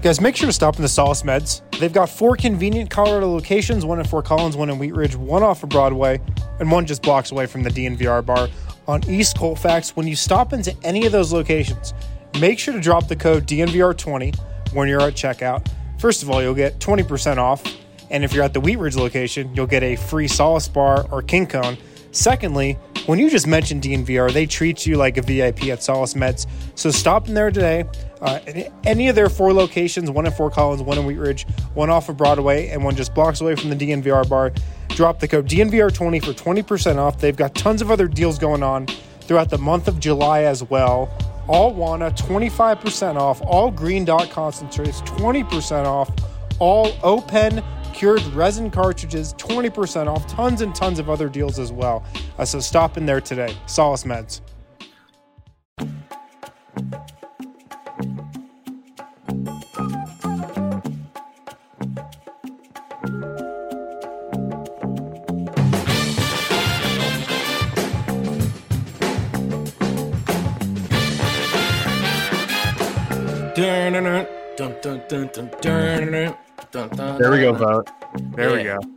Guys, make sure to stop in the Solace Meds. They've got 4 convenient Colorado locations, one in Fort Collins, one in Wheat Ridge, one off of Broadway, and one just blocks away from the DNVR bar on East Colfax. When you stop into any of those locations, make sure to drop the code DNVR20 when you're at checkout. First of all, you'll get 20% off, and if you're at the Wheat Ridge location, you'll get a free Solace bar or King Cone. Secondly, when you just mentioned DNVR, they treat you like a VIP at Solace Meds. So stop in there today. Any of their 4 locations, one in Fort Collins, one in Wheat Ridge, one off of Broadway, and one just blocks away from the DNVR bar. Drop the code DNVR20 for 20% off. They've got tons of other deals going on throughout the month of July as well. All Wana, 25% off. All Green Dot concentrates, 20% off. All Open cured resin cartridges, 20% off. Tons and tons of other deals as well. So stop in there today. Solace Meds. There we go, vote. There we go.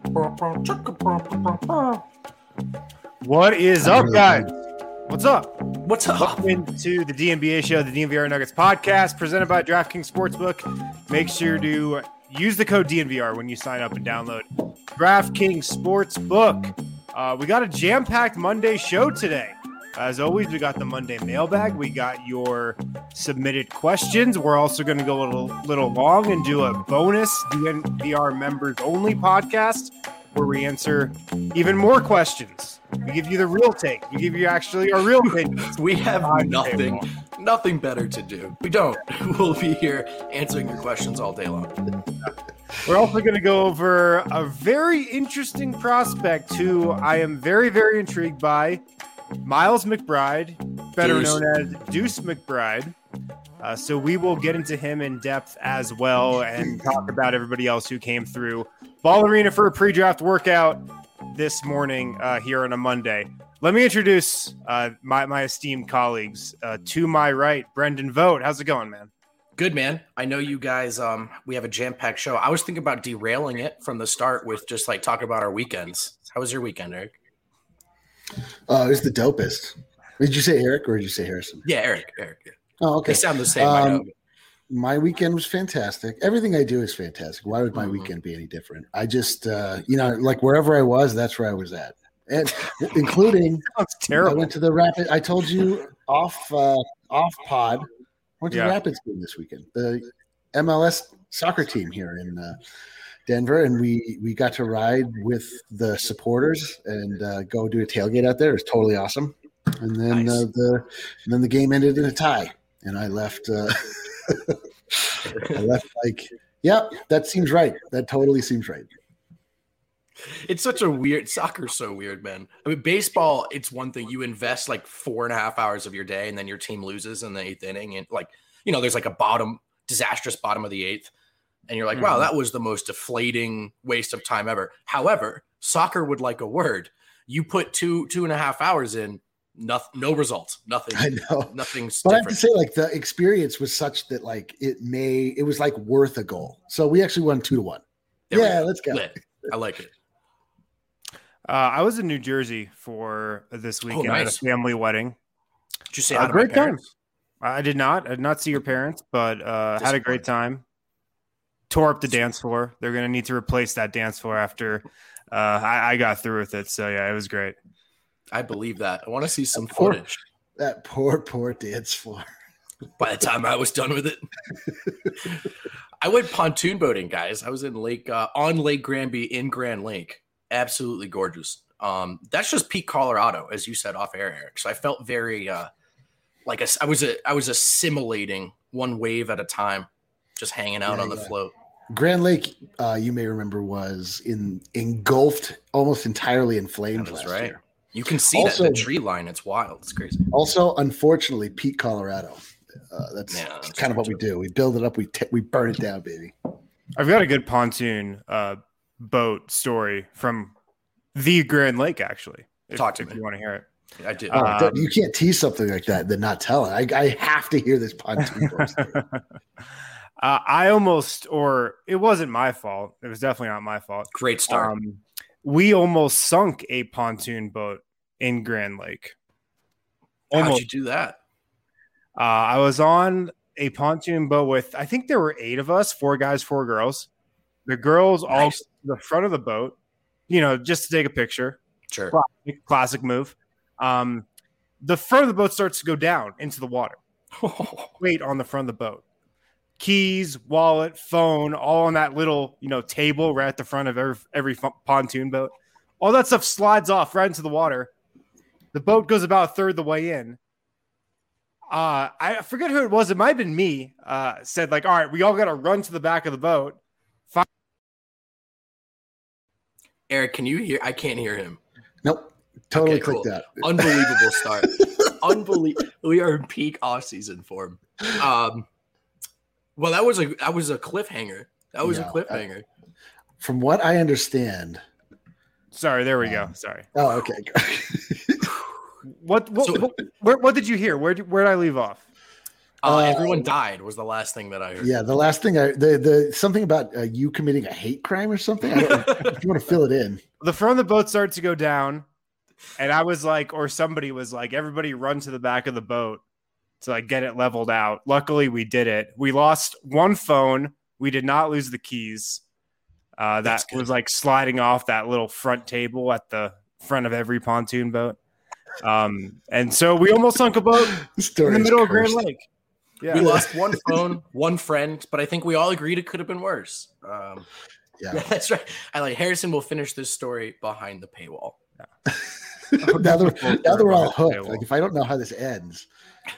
What is up, guys? What's up? What's up? Welcome to the DNBA show, the DNVR Nuggets podcast, presented by DraftKings Sportsbook. Make sure to use the code DNVR when you sign up and download DraftKings Sportsbook. We got a jam-packed Monday show today. As always, we got the Monday mailbag. We got your submitted questions. We're also going to go a little long and do a bonus DNVR members only podcast where we answer even more questions. We give you the real take. We give you actually our real opinions. We have nothing better to do. We don't. We'll be here answering your questions all day long. We're also going to go over a very interesting prospect who I am very, very intrigued by. Miles McBride, better known as Deuce McBride. So we will get into him in depth as well and talk about everybody else who came through Ball Arena for a pre-draft workout this morning here on a Monday. Let me introduce my esteemed colleagues. To my right, Brendan Vogt. How's it going, man? Good, man. I know you guys, we have a jam-packed show. I was thinking about derailing it from the start with just like talking about our weekends. How was your weekend, Eric? It was the dopest. Did you say Eric or did you say Harrison? Yeah, Eric. Yeah. Oh, okay. They sound the same. I know. My weekend was fantastic. Everything I do is fantastic. Why would my weekend be any different? I just, like wherever I was, that's where I was at. And including, That's terrible. I went to the Rapid. I told you off pod. Went to the Rapids game this weekend. The MLS soccer team here in Denver, and we got to ride with the supporters and go do a tailgate out there. It was totally awesome. And then Nice. the game ended in a tie, and I left. That seems right. That totally seems right. It's such a weird – soccer's so weird, man. I mean, baseball, it's one thing. You invest like 4.5 hours of your day, and then your team loses in the 8th inning. And there's like a disastrous bottom of the 8th. And you're like, wow, that was the most deflating waste of time ever. However, soccer would like a word. You put 2.5 hours in, no results, nothing. I know. Nothing's But I have different. to say, like, the experience was such that, like, it was like worth a goal. So we actually won 2-1. There we Yeah, go. let's go. Lit. I like it. I was in New Jersey for this weekend at a nice. family wedding. Did you say hi to Great my parents? I did not see your parents, but had a great time. Tore up the dance floor. They're going to need to replace that dance floor after I got through with it. So, yeah, it was great. I believe that. I want to see some footage. That poor dance floor. By the time I was done with it. I went pontoon boating, guys. I was in on Lake Granby in Grand Lake. Absolutely gorgeous. That's just peak Colorado, as you said off air, Eric. So I felt very I was assimilating one wave at a time, just hanging out on the float. Grand Lake, you may remember, was engulfed almost entirely in flames last year. You can see that in the tree line. It's wild. It's crazy. Also, unfortunately, peak Colorado. That's kind of what we do. We build it up. We burn it down, baby. I've got a good pontoon boat story from the Grand Lake, actually. Talk to me. If you want to hear it. I did. You can't tease something like that and then not tell it. I have to hear this pontoon boat story. It wasn't my fault. It was definitely not my fault. Great start. We almost sunk a pontoon boat in Grand Lake. How'd you do that? I was on a pontoon boat with, I think there were 8 of us, 4 guys, 4 girls. The girls all to the front of the boat, just to take a picture. Sure. Classic move. The front of the boat starts to go down into the water. Weight on the front of the boat. Keys, wallet, phone, all on that little, table right at the front of every pontoon boat. All that stuff slides off right into the water. The boat goes about a third of the way in. I forget who it was. It might have been me. Said all right, we all got to run to the back of the boat. Eric, can you hear? I can't hear him. Nope. Totally clicked out. Unbelievable start. Unbelievable. We are in peak off season form. Well, that was a cliffhanger. That was a cliffhanger. From what I understand. Sorry, there we go. Sorry. Oh, okay. What did you hear? Where did I leave off? Everyone died was the last thing that I heard. Yeah, the last thing the something about you committing a hate crime or something. I don't know if you want to fill it in. The front of the boat started to go down, and I was or somebody was everybody run to the back of the boat to get it leveled out. Luckily, we did it. We lost one phone. We did not lose the keys. That was sliding off that little front table at the front of every pontoon boat. And so we almost sunk a boat in the middle of Grand Lake. Yeah. We lost one phone, one friend, but I think we all agreed it could have been worse. Yeah, that's right. Harrison will finish this story behind the paywall. Yeah. now they're all hooked. If I don't know how this ends.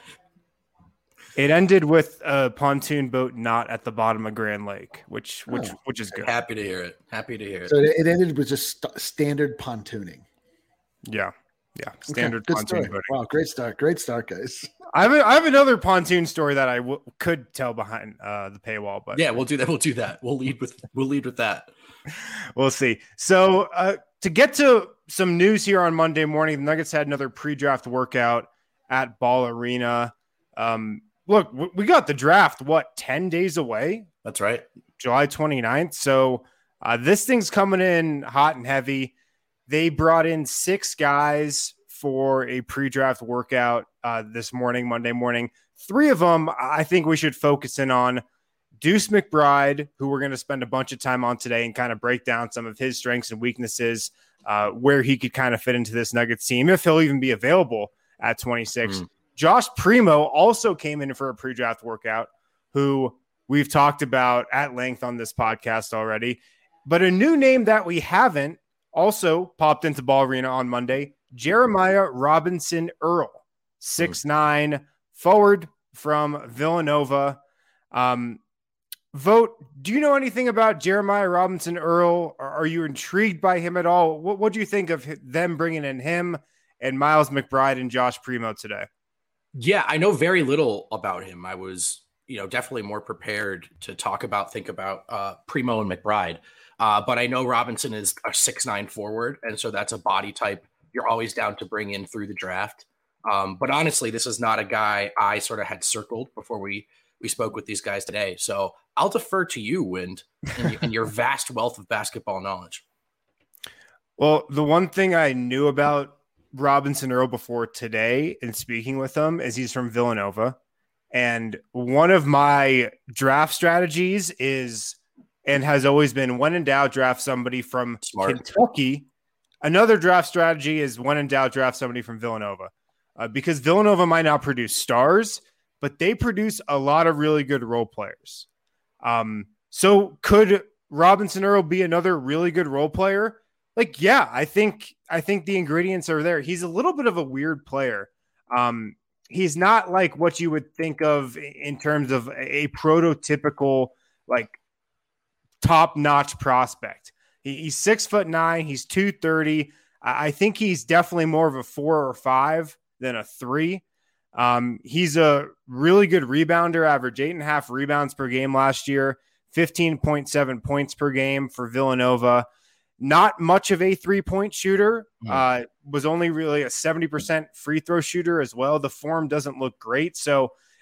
It ended with a pontoon boat not at the bottom of Grand Lake, which is good. Happy to hear it. So it ended with just standard pontooning. Yeah. Yeah. Standard pontoon boating. Wow. Great start, guys. I have another pontoon story that I could tell behind the paywall, but yeah, we'll do that. We'll lead with that. We'll see. So to get to some news here on Monday morning, the Nuggets had another pre-draft workout at Ball Arena. Look, we got the draft, 10 days away? That's right. July 29th. So this thing's coming in hot and heavy. They brought in 6 guys for a pre-draft workout this morning, Monday morning. 3 of them I think we should focus in on. Deuce McBride, who we're going to spend a bunch of time on today and kind of break down some of his strengths and weaknesses, where he could kind of fit into this Nuggets team, if he'll even be available at 26. Josh Primo also came in for a pre-draft workout, who we've talked about at length on this podcast already. But a new name that we haven't also popped into Ball Arena on Monday, Jeremiah Robinson Earl, 6'9", forward from Villanova. Vote, do you know anything about Jeremiah Robinson Earl? Are you intrigued by him at all? What do you think of them bringing in him and Miles McBride and Josh Primo today? Yeah, I know very little about him. I was, definitely more prepared to think about Primo and McBride. But I know Robinson is a 6'9" forward, and so that's a body type you're always down to bring in through the draft. But honestly, this is not a guy I sort of had circled before we spoke with these guys today. So I'll defer to you, Wind, and your vast wealth of basketball knowledge. Well, the one thing I knew about Robinson Earl before today and speaking with him is he's from Villanova. And one of my draft strategies is, and has always been, when in doubt, draft somebody from Kentucky. Another draft strategy is, when in doubt, draft somebody from Villanova. Because Villanova might not produce stars, but they produce a lot of really good role players. So could Robinson Earl be another really good role player? Yeah, I think the ingredients are there. He's a little bit of a weird player. He's not like what you would think of in terms of a prototypical, top-notch prospect. He's 6'9". He's 230. I think he's definitely more of a 4 or 5 than a 3. He's a really good rebounder, average 8.5 rebounds per game last year, 15.7 points per game for Villanova. Not much of a 3-point shooter, was only really a 70% free throw shooter as well. The form doesn't look great. So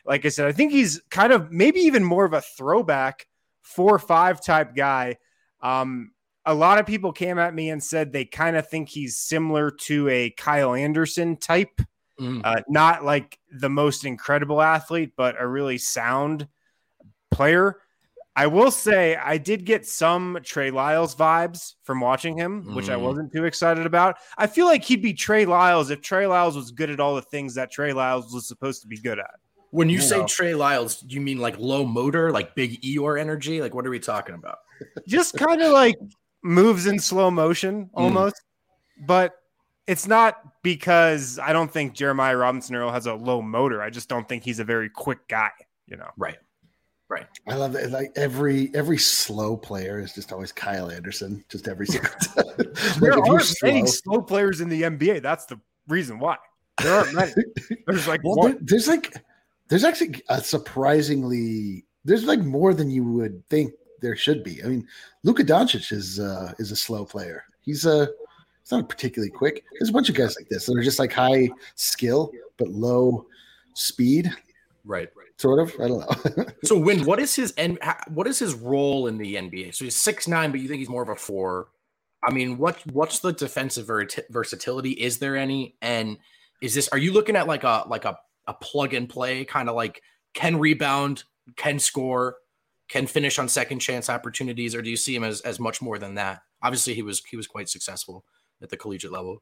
like I said, I think he's kind of maybe even more of a throwback 4-5 type guy. A lot of people came at me and said they kind of think he's similar to a Kyle Anderson type. Not like the most incredible athlete, but a really sound player. I will say I did get some Trey Lyles vibes from watching him, which I wasn't too excited about. I feel like he'd be Trey Lyles if Trey Lyles was good at all the things that Trey Lyles was supposed to be good at. When you say Trey Lyles, do you mean like low motor, like big Eeyore energy? Like, what are we talking about? Just kind of like moves in slow motion almost, but it's not because I don't think Jeremiah Robinson-Earl has a low motor. I just don't think he's a very quick guy, Right. I love it. Like every slow player is just always Kyle Anderson, just every single time. There aren't many slow players in the NBA. That's the reason why. There aren't many. There's like there's actually a surprisingly there's like more than you would think there should be. I mean, Luka Doncic is a slow player. He's not particularly quick. There's a bunch of guys like this that are just like high skill but low speed. Right. Sort of. I don't know. So what is his role in the NBA? So he's 6'9", but you think he's more of a 4. I mean, what's the defensive versatility? Is there any? And are you looking at like a plug and play kind of like can rebound, can score, can finish on second chance opportunities, or do you see him as much more than that? Obviously, he was quite successful at the collegiate level.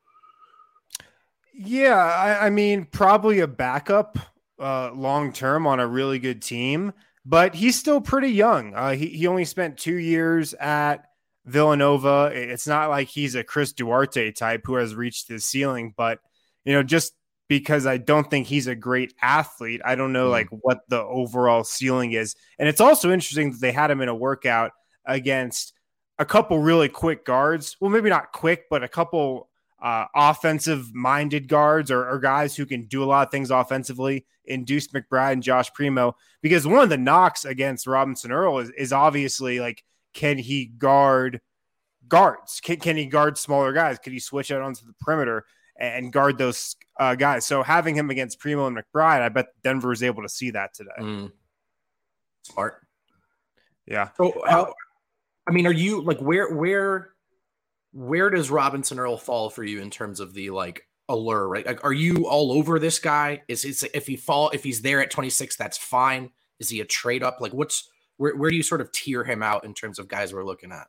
Yeah, I mean, probably a backup long term on a really good team, but he's still pretty young. He only spent 2 years at Villanova. It's not like he's a Chris Duarte type who has reached his ceiling, but just because I don't think he's a great athlete, I don't know like what the overall ceiling is. And it's also interesting that they had him in a workout against a couple really quick guards. Well, maybe not quick, but a couple offensive-minded guards or guys who can do a lot of things offensively in Deuce McBride and Josh Primo. Because one of the knocks against Robinson-Earl is obviously like, can he guard guards? Can he guard smaller guys? Could he switch out onto the perimeter and guard those guys? So having him against Primo and McBride, I bet Denver is able to see that today. Smart. Yeah. So are you like where does Robinson-Earl fall for you in terms of the like allure, right? Like, are you all over this guy? If he's there at 26, that's fine. Is he a trade up? Like where do you sort of tier him out in terms of guys we're looking at?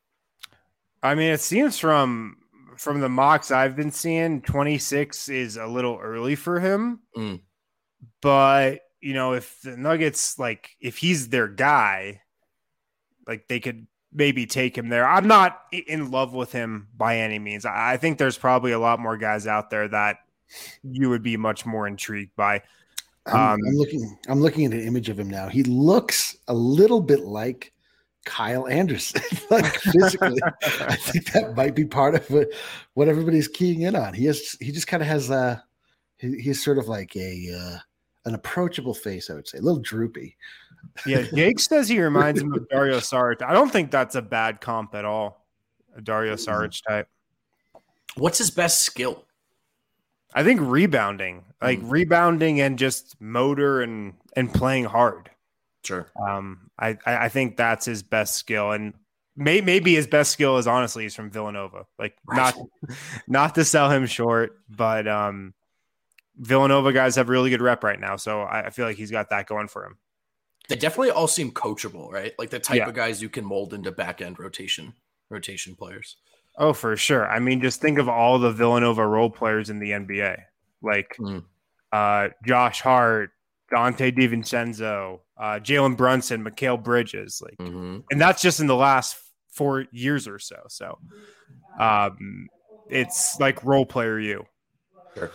I mean, it seems from the mocks I've been seeing, 26 is a little early for him. But, if the Nuggets, like, if he's their guy, like, they could maybe take him there. I'm not in love with him by any means. I think there's probably a lot more guys out there that you would be much more intrigued by. I'm looking at an image of him now. He looks a little bit like Kyle Anderson, like physically. I think that might be part of what everybody's keying in on. He just kind of has he's sort of like an approachable face, I would say, a little droopy. Yeah, Jake says he reminds him of Dario Saric. I don't think that's a bad comp at all. A Dario Saric type. What's his best skill? I think rebounding, rebounding and just motor and playing hard. Sure. I think that's his best skill, and maybe his best skill is honestly he's from Villanova. Like not to sell him short, but Villanova guys have really good rep right now, so I feel like he's got that going for him. They definitely all seem coachable, right? Like the type of guys you can mold into back end rotation players. Oh, for sure. I mean, just think of all the Villanova role players in the NBA, like Josh Hart, Dante DiVincenzo, Jalen Brunson, Mikal Bridges, and that's just in the last 4 years or so. So it's like role player you. Sure.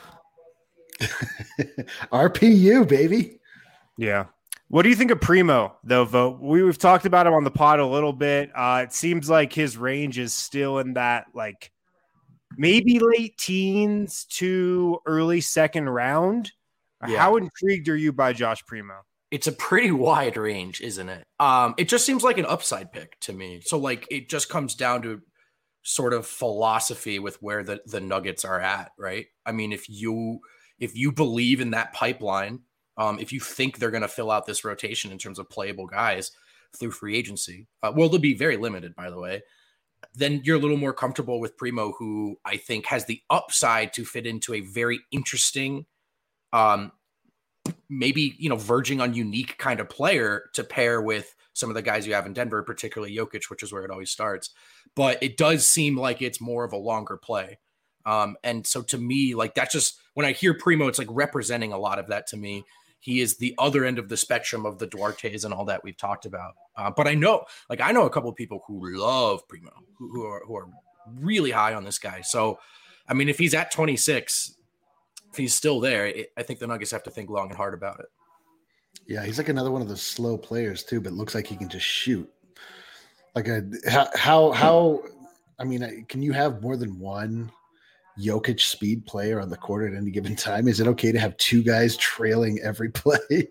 RPU, baby. Yeah. What do you think of Primo, though, Vogt? We've talked about him on the pod a little bit. It seems like his range is still in that, like, maybe late teens to early second round. Yeah. How intrigued are you by Josh Primo? It's a pretty wide range, isn't it? It just seems like an upside pick to me. So, like, it just comes down to sort of philosophy with where the Nuggets are at, right? I mean, if you believe in that pipeline if you think they're going to fill out this rotation in terms of playable guys through free agency, well, they'll be very limited, by the way, then you're a little more comfortable with Primo, who I think has the upside to fit into a very interesting, maybe, verging on unique kind of player to pair with some of the guys you have in Denver, particularly Jokic, which is where it always starts. But it does seem like it's more of a longer play. And so to me, like, that's just, when I hear Primo, it's like representing a lot of that to me. He is the other end of the spectrum of the Duartes and all that we've talked about. But I know a couple of people who love Primo, who are really high on this guy. So, I mean, if he's at 26, if he's still there, I think the Nuggets have to think long and hard about it. Yeah, he's like another one of those slow players too, but looks like he can just shoot. Like how? I mean, can you have more than one Jokic speed player on the court at any given time? Is it okay to have two guys trailing every play?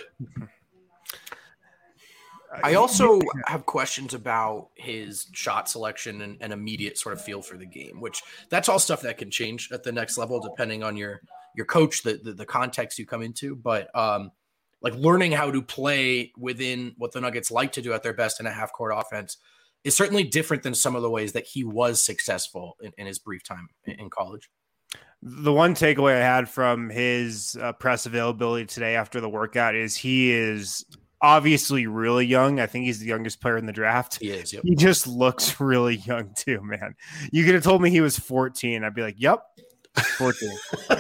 I also have questions about his shot selection and immediate sort of feel for the game, which that's all stuff that can change at the next level depending on your coach, the context you come into. But like learning how to play within what the Nuggets like to do at their best in a half court offense is certainly different than some of the ways that he was successful in his brief time in college. The one takeaway I had from his press availability today after the workout is he is obviously really young. I think he's the youngest player in the draft. He is. Yep. He just looks really young too, man. You could have told me he was 14. I'd be like, yep, 14.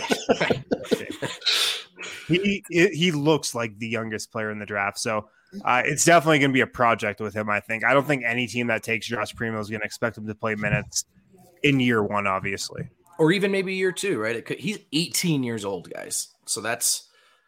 He looks like the youngest player in the draft. So it's definitely going to be a project with him, I think. I don't think any team that takes Josh Primo is going to expect him to play minutes in year one, obviously. Or even maybe year two, right? He's 18 years old, guys. So that's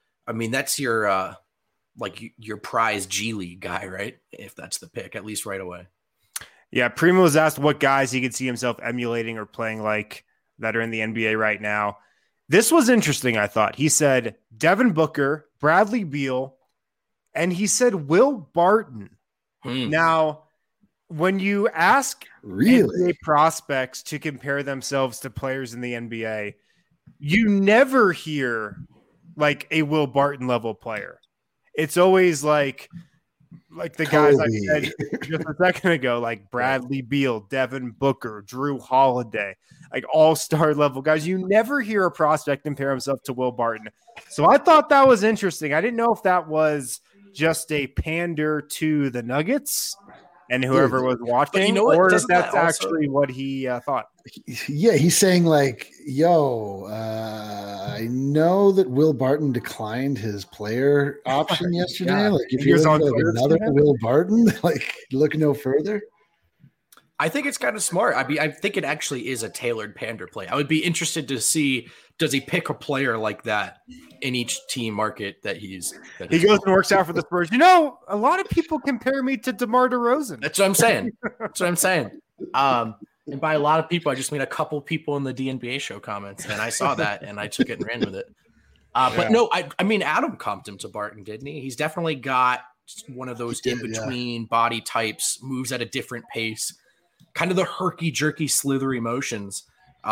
your your prize G League guy, right? If that's the pick, at least right away. Yeah, Primo was asked what guys he could see himself emulating or playing like that are in the NBA right now. This was interesting, I thought. He said Devin Booker, Bradley Beal, and he said Will Barton. Now, when you ask NBA prospects to compare themselves to players in the NBA, you never hear like a Will Barton level player. It's always like the guys I said just a second ago, like Bradley Beal, Devin Booker, Drew Holiday, like all-star level guys. You never hear a prospect compare himself to Will Barton. So I thought that was interesting. I didn't know if that was just a pander to the Nuggets and whoever was watching, or if that's actually what he thought. Yeah, he's saying like, yo, I know that Will Barton declined his player option yesterday. Like, if you're looking for another Will Barton, like, look no further. I think it's kind of smart. I think it actually is a tailored pander play. I would be interested to see, does he pick a player like that in each team market that he goes and works out for the Spurs? You know, a lot of people compare me to DeMar DeRozan. That's what I'm saying. And by a lot of people, I just mean a couple people in the DNBA show comments, and I saw that and I took it and ran with it. But no, I mean, Adam comped him to Barton, didn't he? He's definitely got one of those in-between body types, moves at a different pace, kind of the herky-jerky, slithery motions.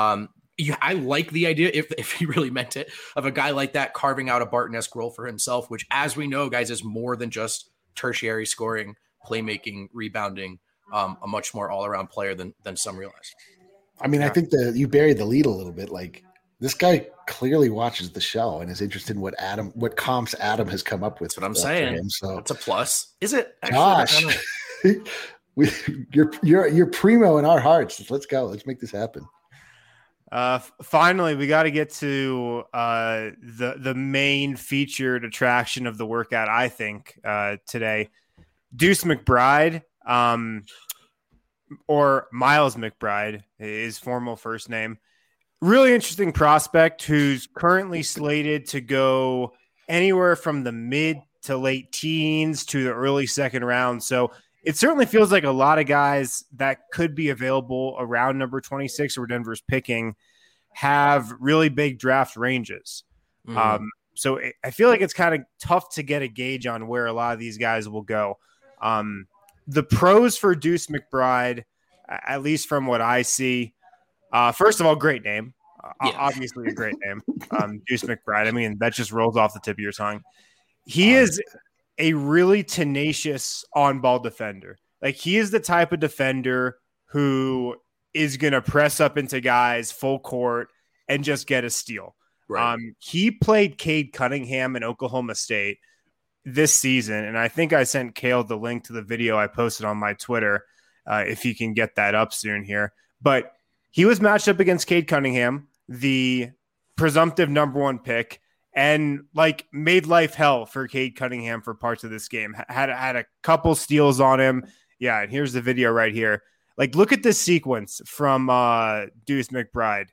I like the idea, if he really meant it, of a guy like that carving out a Barton-esque role for himself, which, as we know, guys, is more than just tertiary scoring, playmaking, rebounding, a much more all-around player than some realize. I mean, I think that you buried the lead a little bit. Like, this guy clearly watches the show and is interested in what comps Adam has come up with. That's what I'm saying. Him, so that's a plus. Is it? Actually, Josh, you're Primo in our hearts. Let's go. Let's make this happen. Finally, we got to get to the main featured attraction of the workout, I think, today. Deuce McBride, or Miles McBride, his formal first name. Really interesting prospect who's currently slated to go anywhere from the mid to late teens to the early second round. So it certainly feels like a lot of guys that could be available around number 26 or Denver's picking have really big draft ranges. So I feel like it's kind of tough to get a gauge on where a lot of these guys will go. The pros for Deuce McBride, at least from what I see, first of all, great name. obviously a great name. Deuce McBride. I mean, that just rolls off the tip of your tongue. He is a really tenacious on-ball defender. Like, he is the type of defender who is going to press up into guys full court and just get a steal. Right. He played Cade Cunningham in Oklahoma State this season, and I think I sent Cale the link to the video I posted on my Twitter, if he can get that up soon here. But he was matched up against Cade Cunningham, the presumptive number 1 pick, and like made life hell for Cade Cunningham for parts of this game. Had a couple steals on him. Yeah, and here's the video right here. Like, look at this sequence from Deuce McBride.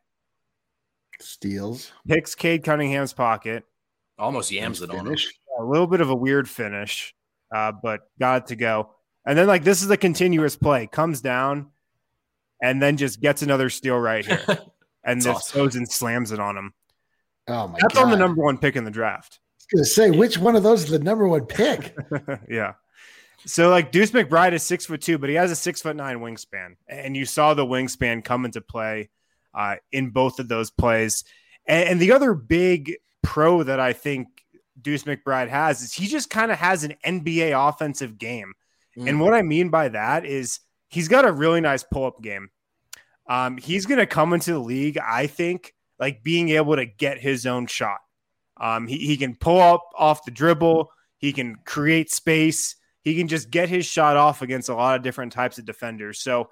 Steals. Picks Cade Cunningham's pocket. Almost yams it on him. A little bit of a weird finish, but got it to go. And then, like, this is a continuous play. Comes down and then just gets another steal right here. And this goes and slams it on him. Oh, my God. That's on the number 1 pick in the draft. I was going to say, which one of those is the number 1 pick? Yeah. So, like, Deuce McBride is 6'2", but he has a 6'9" wingspan. And you saw the wingspan come into play in both of those plays. And the other big pro that I think Deuce McBride has is he just kind of has an NBA offensive game. And what I mean by that is he's got a really nice pull-up game. He's going to come into the league, I think, like being able to get his own shot. He can pull up off the dribble. He can create space. He can just get his shot off against a lot of different types of defenders. So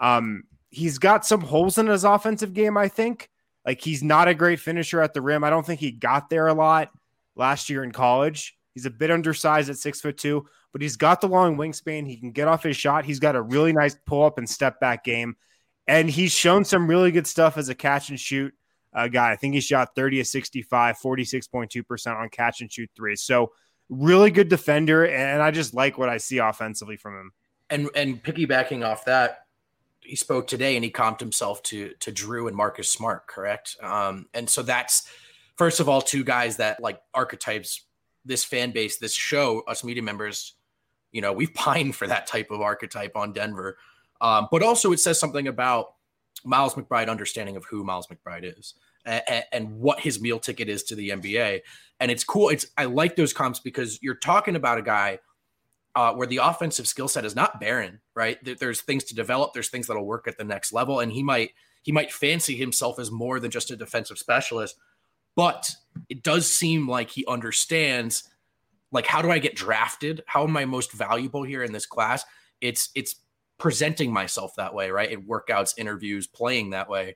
he's got some holes in his offensive game, I think. Like, he's not a great finisher at the rim. I don't think he got there a lot last year in college. He's a bit undersized at 6'2", but he's got the long wingspan. He can get off his shot. He's got a really nice pull-up and step-back game. And he's shown some really good stuff as a catch-and-shoot guy. I think he shot 30 of 65, 46.2% on catch-and-shoot threes. So really good defender, and I just like what I see offensively from him. And piggybacking off that, he spoke today and he comped himself to Drew and Marcus Smart, correct? And so that's, first of all, 2 guys that, like, archetypes, this fan base, this show, us media members, you know, we've pined for that type of archetype on Denver. But also it says something about Miles McBride understanding of who Miles McBride is and what his meal ticket is to the NBA. And it's cool. I like those comps because you're talking about a guy where the offensive skill set is not barren, right? There's things to develop. There's things that'll work at the next level. And he might fancy himself as more than just a defensive specialist, but it does seem like he understands, like, how do I get drafted? How am I most valuable here in this class? It's presenting myself that way, right? In workouts, interviews, playing that way.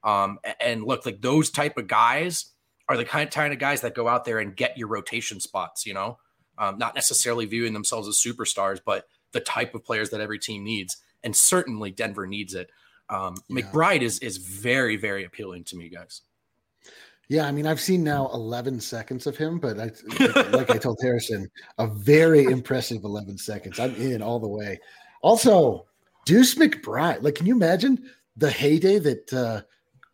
And look, like, those type of guys are the kind of guys that go out there and get your rotation spots, you know, not necessarily viewing themselves as superstars, but the type of players that every team needs. And certainly Denver needs it. McBride is very, very appealing to me, guys. Yeah, I mean, I've seen now 11 seconds of him, but like I told Harrison, a very impressive 11 seconds. I'm in all the way. Also, Deuce McBride, like, can you imagine the heyday that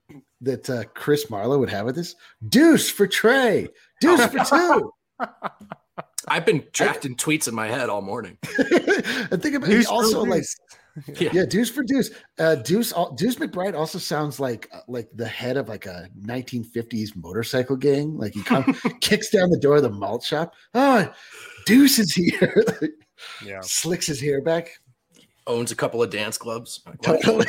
Chris Marlowe would have with this? Deuce for Trey, Deuce for 2. I've been drafting tweets in my head all morning. I think about it also, like, yeah, Deuce for Deuce. Deuce McBride also sounds like the head of like a 1950s motorcycle gang. Like, he kicks down the door of the malt shop. Oh, Deuce is here. Yeah, slicks his hair back. Owns a couple of dance clubs. Totally.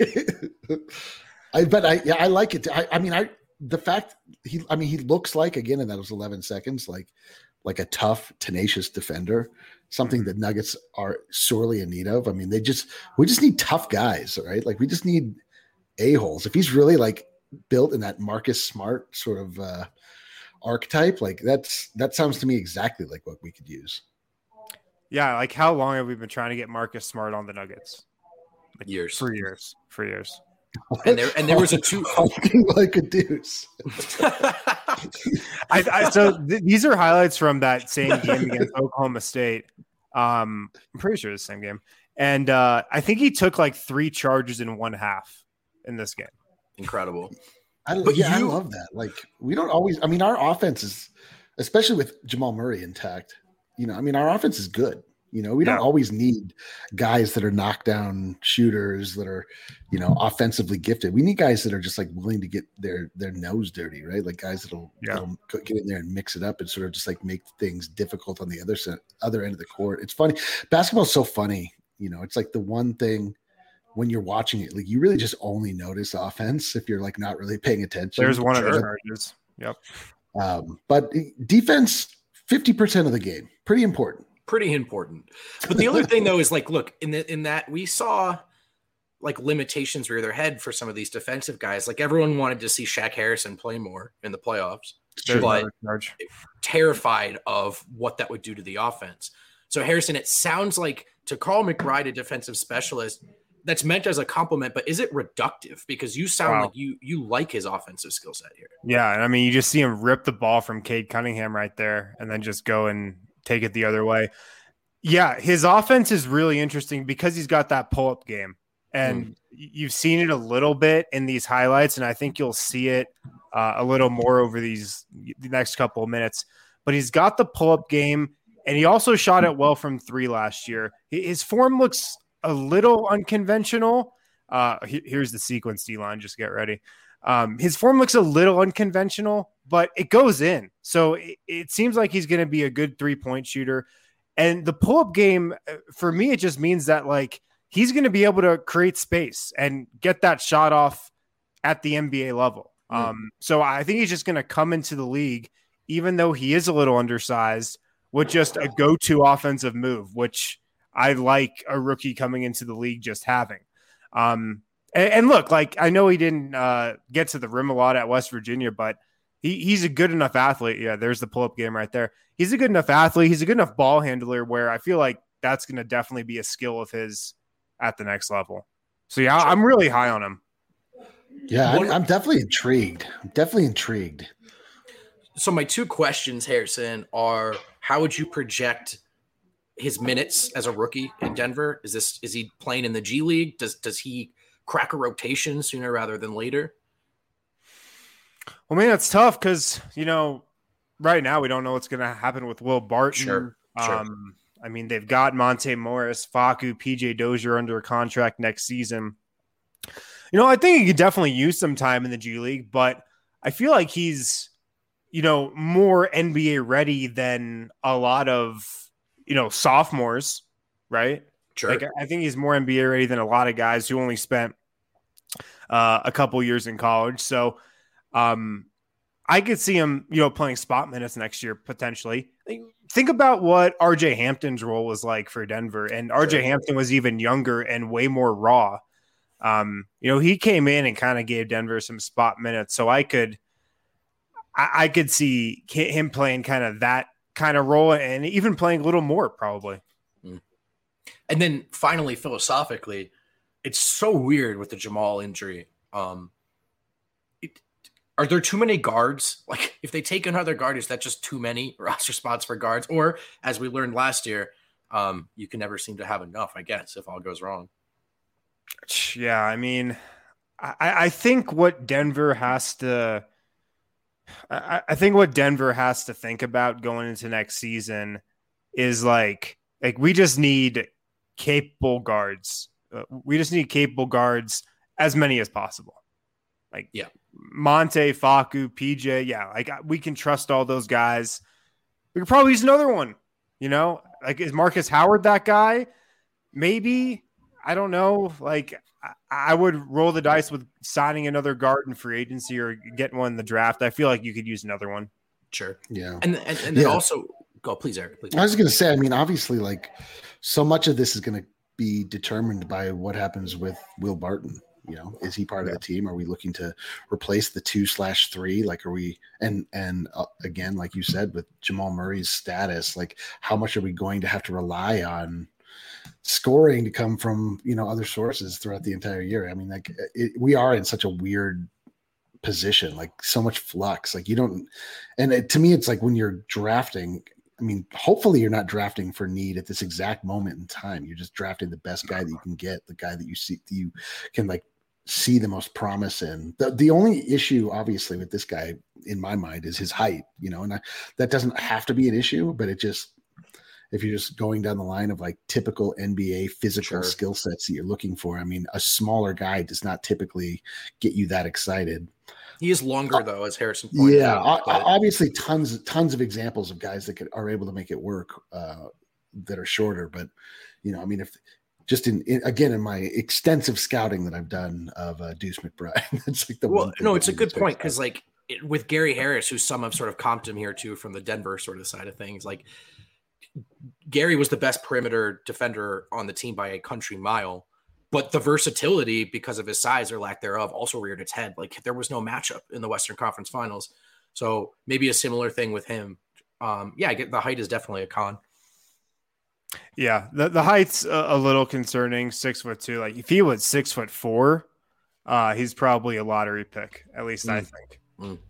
I like it. The fact he looks like, again, in those 11 seconds, like a tough, tenacious defender, something that Nuggets are sorely in need of. I mean, we just need tough guys, right? Like, we just need a-holes. If he's really, like, built in that Marcus Smart sort of archetype, like, that sounds to me exactly like what we could use. Yeah, like, how long have we been trying to get Marcus Smart on the Nuggets? Like, years. For years. And there was a 2 like a Deuce. These are highlights from that same game against Oklahoma State. I'm pretty sure it's the same game. And I think he took like 3 charges in 1 half in this game. Incredible. I love that. Like, we don't always, our offense is, especially with Jamal Murray intact, our offense is good. You know, we don't always need guys that are knockdown shooters that are, you know, offensively gifted. We need guys that are just like willing to get their nose dirty, right? Like guys that'll get in there and mix it up and sort of just like make things difficult on the other end of the court. It's funny. Basketball's so funny. You know, it's like the one thing when you're watching it, like you really just only notice offense if you're like not really paying attention. There's one of the charges. Yep. But defense, 50% of the game, pretty important. But the other thing though is like, look, in that we saw like limitations rear their head for some of these defensive guys. Like everyone wanted to see Shaq Harrison play more in the playoffs, but terrified of what that would do to the offense. So Harrison, it sounds like to call McBride a defensive specialist, that's meant as a compliment, but is it reductive? Because you sound like you like his offensive skill set here. Yeah, and I mean, you just see him rip the ball from Cade Cunningham right there and then just go and take it the other way. Yeah, his offense is really interesting because he's got that pull-up game. And you've seen it a little bit in these highlights, and I think you'll see it a little more over the next couple of minutes. But he's got the pull-up game, and he also shot it well from 3 last year. His form looks a little unconventional. Here's the sequence, D-line. Just get ready. His form looks a little unconventional, but it goes in. So it seems like he's going to be a good 3-point shooter. And the pull-up game, for me, it just means that like he's going to be able to create space and get that shot off at the NBA level. So I think he's just going to come into the league, even though he is a little undersized, with just a go-to offensive move, which I like a rookie coming into the league just having. And look, like I know he didn't get to the rim a lot at West Virginia, but he's a good enough athlete. Yeah, there's the pull-up game right there. He's a good enough athlete. He's a good enough ball handler where I feel like that's going to definitely be a skill of his at the next level. So, yeah, I'm really high on him. Yeah, I'm definitely intrigued. So my 2 questions, Harrison, are how would you project his minutes as a rookie in Denver? Is he playing in the G League? Does he crack a rotation sooner rather than later? Well, man, it's tough because, you know, right now we don't know what's going to happen with Will Barton. Sure. I mean, they've got Monte Morris, Facu, PJ Dozier under a contract next season. You know, I think he could definitely use some time in the G League, but I feel like he's, you know, more NBA ready than a lot of, you know, sophomores, right? Sure. Like, I think he's more NBA ready than a lot of guys who only spent a couple years in college. So I could see him, you know, playing spot minutes next year, potentially. Think about what RJ Hampton's role was like for Denver. And RJ Hampton was even younger and way more raw. You know, he came in and kind of gave Denver some spot minutes. So I could see him playing kind of that kind of role and even playing a little more probably. And then finally, philosophically, it's so weird with the Jamal injury. Are there too many guards? Like if they take another guard, is that just too many roster spots for guards? Or as we learned last year, you can never seem to have enough, I guess, if all goes wrong. Yeah, I mean, I think what Denver has to think about going into next season is like we just need capable guards. We just need capable guards, as many as possible. Like Monte, Facu, PJ. Yeah, like we can trust all those guys. We could probably use another one. You know, like is Marcus Howard that guy? Maybe. I don't know. Like I would roll the dice with signing another guard in free agency or getting one in the draft. I feel like you could use another one. Sure. Yeah. And then also go, please, Eric. Please. I was going to say, I mean, obviously, like so much of this is going to be determined by what happens with Will Barton. You know, is he part of the team? Are we looking to replace the 2/3? Like, are we, and again, like you said, with Jamal Murray's status, like how much are we going to have to rely on scoring to come from, you know, other sources throughout the entire year? I mean, like we are in such a weird position, like so much flux, like you don't, and to me, it's like when you're drafting, I mean, hopefully you're not drafting for need at this exact moment in time. You're just drafting the best guy that you can get, the guy that you can like see the most promise in. The only issue obviously with this guy in my mind is his height, you know, and that doesn't have to be an issue, but if you're just going down the line of like typical NBA physical skill sets that you're looking for. I mean, a smaller guy does not typically get you that excited. He is longer though, as Harrison pointed out. Yeah, obviously tons of examples of guys that are able to make it work that are shorter. But I mean, if just in my extensive scouting that I've done of Deuce McBride, it's like it's a good point because like with Gary Harris, who some have sort of comped him here too from the Denver sort of side of things, like Gary was the best perimeter defender on the team by a country mile. But the versatility, because of his size or lack thereof, also reared its head. Like there was no matchup in the Western Conference Finals. So maybe a similar thing with him. I get the height is definitely a con. Yeah, the height's a little concerning. 6'2". Like if he was 6'4", he's probably a lottery pick. At least I think.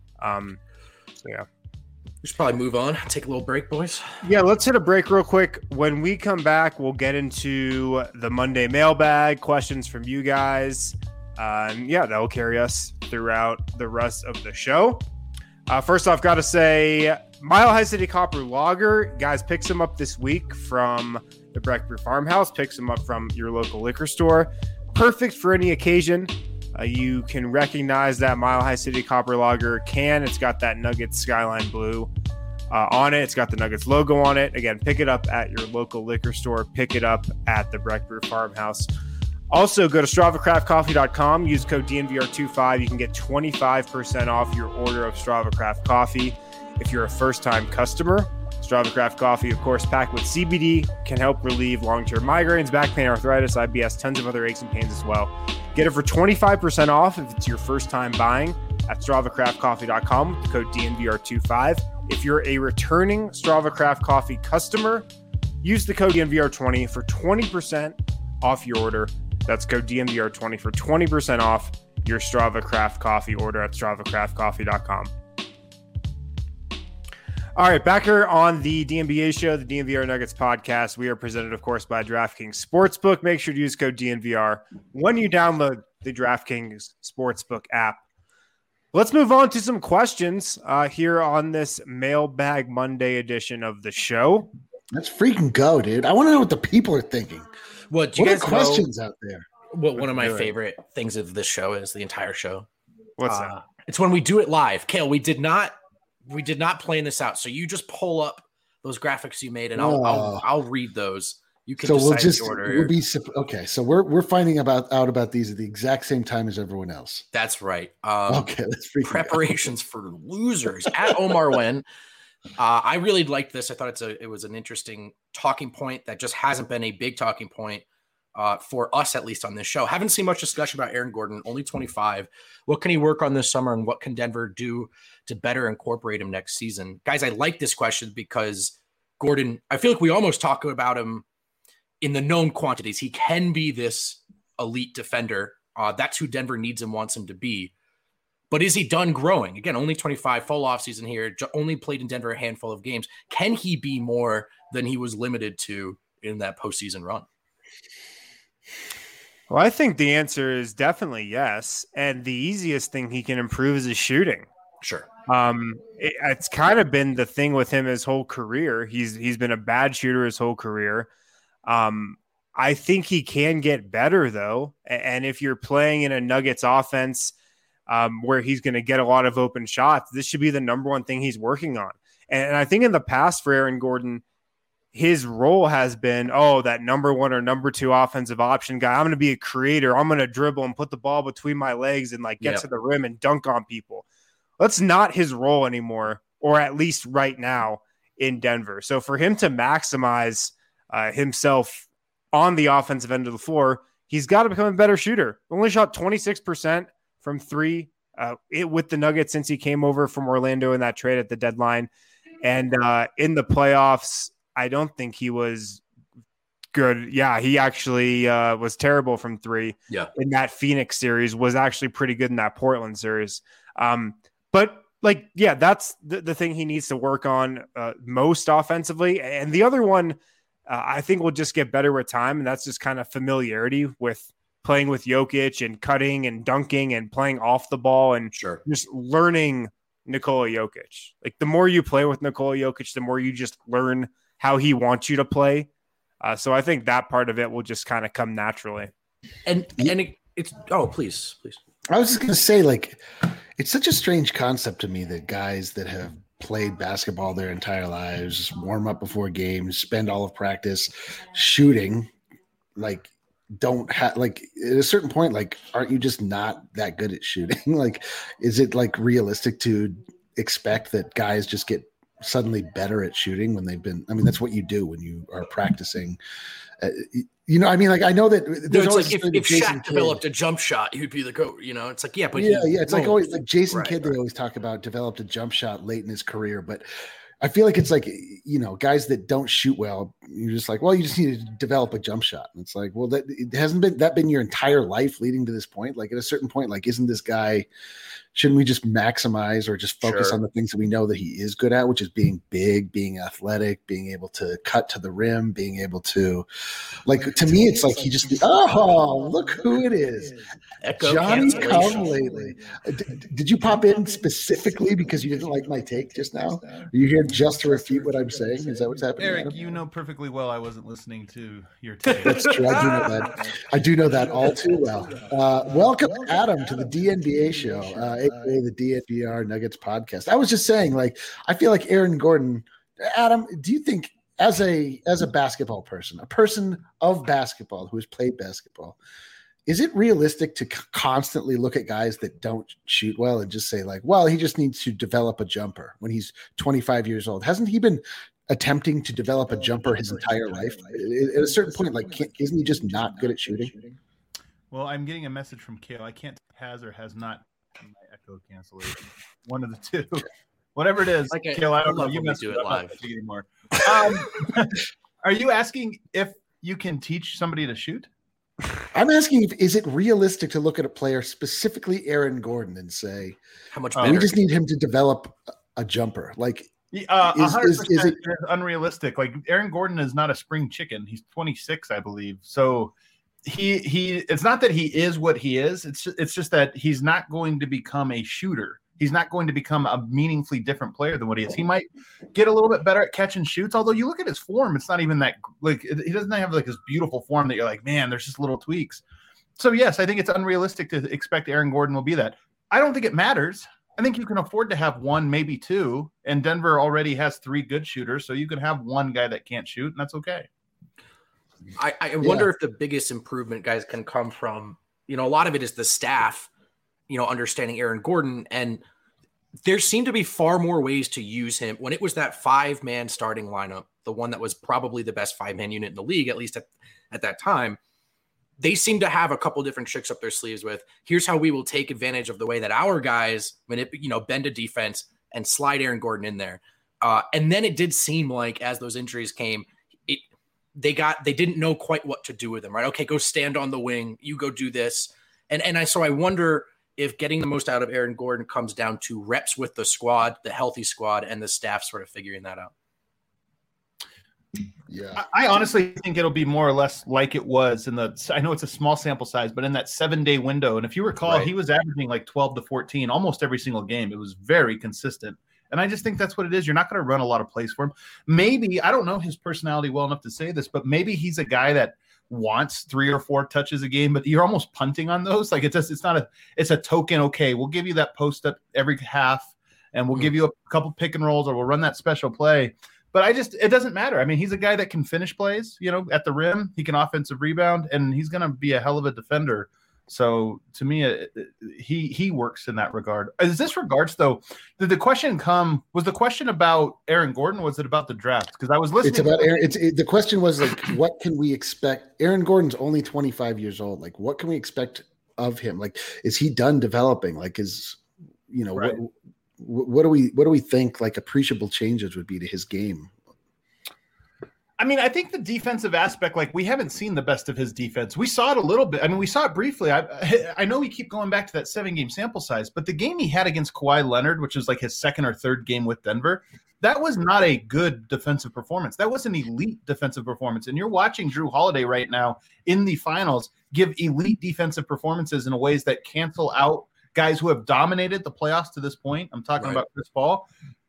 Yeah. We should probably move on. Take a little break, boys. Yeah, let's hit a break real quick. When we come back, we'll get into the Monday mailbag, questions from you guys. That will carry us throughout the rest of the show. First off, got to say, Mile High City Copper Lager. Guys, picks them up this week from the Breck Brew Farmhouse. Picks them up from your local liquor store. Perfect for any occasion. You can recognize that Mile High City Copper Lager can. It's got that Nuggets Skyline Blue on it. It's got the Nuggets logo on it. Again, pick it up at your local liquor store. Pick it up at the Breck Brew Farmhouse. Also, go to StravaCraftCoffee.com. Use code DNVR25. You can get 25% off your order of Strava Craft Coffee if you're a first-time customer. Strava Craft Coffee, of course, packed with CBD, can help relieve long-term migraines, back pain, arthritis, IBS, tons of other aches and pains as well. Get it for 25% off if it's your first time buying at StravaCraftCoffee.com with the code DNVR25. If you're a returning Strava Craft Coffee customer, use the code DNVR20 for 20% off your order. That's code DNVR20 for 20% off your Strava Craft Coffee order at StravaCraftCoffee.com. All right, back here on the DNVR show, the DNVR Nuggets podcast. We are presented, of course, by DraftKings Sportsbook. Make sure to use code DNVR when you download the DraftKings Sportsbook app. Let's move on to some questions here on this Mailbag Monday edition of the show. Let's freaking go, dude. I want to know what the people are thinking. What are questions out there? What one of my favorite things of this show is the entire show. What's that? It's when we do it live. Kale, we did not plan this out. So you just pull up those graphics you made, and I'll read those. You can decide the order. Okay. So we're finding out about these at the exact same time as everyone else. That's right. Okay. Let's preparations for losers at Omar Wen. I really liked this. I thought it was an interesting talking point that just hasn't been a big talking point for us, at least on this show. Haven't seen much discussion about Aaron Gordon, only 25. What can he work on this summer, and what can Denver do to better incorporate him next season? Guys, I like this question because Gordon, I feel like we almost talk about him in the known quantities. He can be this elite defender. That's who Denver needs and wants him to be. But is he done growing? Again, only 25, full offseason here, only played in Denver a handful of games. Can he be more than he was limited to in that postseason run? Well, I think the answer is definitely yes. And the easiest thing he can improve is his shooting. Sure. It's kind of been the thing with him his whole career. He's been a bad shooter his whole career. I think he can get better, though. And if you're playing in a Nuggets offense where he's going to get a lot of open shots, this should be the number one thing he's working on. And I think in the past for Aaron Gordon, his role has been, that number one or number two offensive option guy. I'm going to be a creator. I'm going to dribble and put the ball between my legs and get to the rim and dunk on people. That's not his role anymore, or at least right now in Denver. So for him to maximize himself on the offensive end of the floor, he's got to become a better shooter. Only shot 26% from three with the Nuggets since he came over from Orlando in that trade at the deadline. And in the playoffs, I don't think he was good. Yeah, he actually was terrible from three. Yeah. In that Phoenix series, was actually pretty good in that Portland series. But that's the thing he needs to work on most offensively. And the other one, I think will just get better with time. And that's just kind of familiarity with playing with Jokic and cutting and dunking and playing off the ball and just learning Nikola Jokic. Like the more you play with Nikola Jokic, the more you just learn how he wants you to play. So I think that part of it will just kind of come naturally. And it's please. I was just going to say, like, it's such a strange concept to me that guys that have played basketball their entire lives, just warm up before games, spend all of practice shooting, like, don't have, like, at a certain point, like, aren't you just not that good at shooting? Like, is it like realistic to expect that guys just get suddenly better at shooting when they've been, I mean, that's what you do when you are practicing. You know, I mean, like, I know that there's always like if Shaq developed a jump shot, he'd be the coach. You know, it's like, yeah, but it's like always like Jason Kidd. They always talk about developed a jump shot late in his career, but I feel like it's like, you know, guys that don't shoot well, you're just like, well, you just need to develop a jump shot. And it's like, well, that it hasn't been your entire life leading to this point. Like, at a certain point, like, isn't this guy? Shouldn't we just maximize or just focus on the things that we know that he is good at, which is being big, being athletic, being able to cut to the rim, being able to, like, to me, it's like he just, look who it is. Echo Johnny Come Lately. Did you pop in specifically because you didn't like my take just now? Are you here just to refute what I'm saying? Is that what's happening? Eric, Adam? you know perfectly well I wasn't listening to your take. That's true. I do know that. I do know that all too well. Welcome, Adam, to the DNBA show. AKA the DNVR Nuggets podcast. I was just saying, like, I feel like Aaron Gordon. Adam, do you think, as a basketball person, a person of basketball who has played basketball, is it realistic to constantly look at guys that don't shoot well and just say, like, well, he just needs to develop a jumper when he's 25 years old? Hasn't he been attempting to develop a jumper his entire life? At a certain point, like, isn't he just not good at shooting? Well, I'm getting a message from Kale. I can't has or has not my echo cancellation. One of the two. Whatever it is. Okay, Kale, I don't know. You must do it live anymore. Are you asking if you can teach somebody to shoot? I'm asking, is it realistic to look at a player, specifically Aaron Gordon, and say, how much we just need him to develop a jumper? Like, 100% is it unrealistic? Like, Aaron Gordon is not a spring chicken. He's 26, I believe. So he it's not that he is what he is. It's just that he's not going to become a shooter. He's not going to become a meaningfully different player than what he is. He might get a little bit better at catch and shoots, although you look at his form, it's not even that, like, he doesn't have like this beautiful form that you're like, man, there's just little tweaks. So yes, I think it's unrealistic to expect Aaron Gordon will be that. I don't think it matters. I think you can afford to have one, maybe two, and Denver already has 3 good shooters, so you can have one guy that can't shoot, and that's okay. I wonder if the biggest improvement, guys, can come from, you know, a lot of it is the staff, you know, understanding Aaron Gordon. And there seemed to be far more ways to use him when it was that 5-man starting lineup, the one that was probably the best 5-man unit in the league, at least at that time. They seem to have a couple different tricks up their sleeves with, here's how we will take advantage of the way that our guys, bend a defense and slide Aaron Gordon in there. And then it did seem like as those injuries came, they didn't know quite what to do with him, right? Okay, go stand on the wing. You go do this. So I wonder if getting the most out of Aaron Gordon comes down to reps with the squad, the healthy squad, and the staff sort of figuring that out. Yeah, I honestly think it'll be more or less like it was I know it's a small sample size, but in that 7-day window. And if you recall, He was averaging like 12 to 14 almost every single game. It was very consistent. And I just think that's what it is. You're not going to run a lot of plays for him. Maybe, I don't know his personality well enough to say this, but maybe he's a guy that wants 3 or 4 touches a game, but you're almost punting on those. Like, it's a token. Okay, we'll give you that post up every half, and we'll give you a couple pick and rolls, or we'll run that special play. But it doesn't matter. I mean, he's a guy that can finish plays, at the rim. He can offensive rebound, and he's going to be a hell of a defender. So to me, he works in that regard. As this regards, though, did the question was the question about Aaron Gordon? Or was it about the draft? Because I was listening. It's about Aaron. The question was, like, what can we expect? Aaron Gordon's only 25 years old. Like, what can we expect of him? Like, is he done developing? Like, right. What do we think, like, appreciable changes would be to his game? I mean, I think the defensive aspect, like, we haven't seen the best of his defense. We saw it a little bit. I mean, we saw it briefly. I know we keep going back to that 7-game sample size, but the game he had against Kawhi Leonard, which was like his 2nd or 3rd game with Denver, that was not a good defensive performance. That was an elite defensive performance. And you're watching Jrue Holiday right now in the finals give elite defensive performances in ways that cancel out guys who have dominated the playoffs to this point. I'm talking about Chris Paul.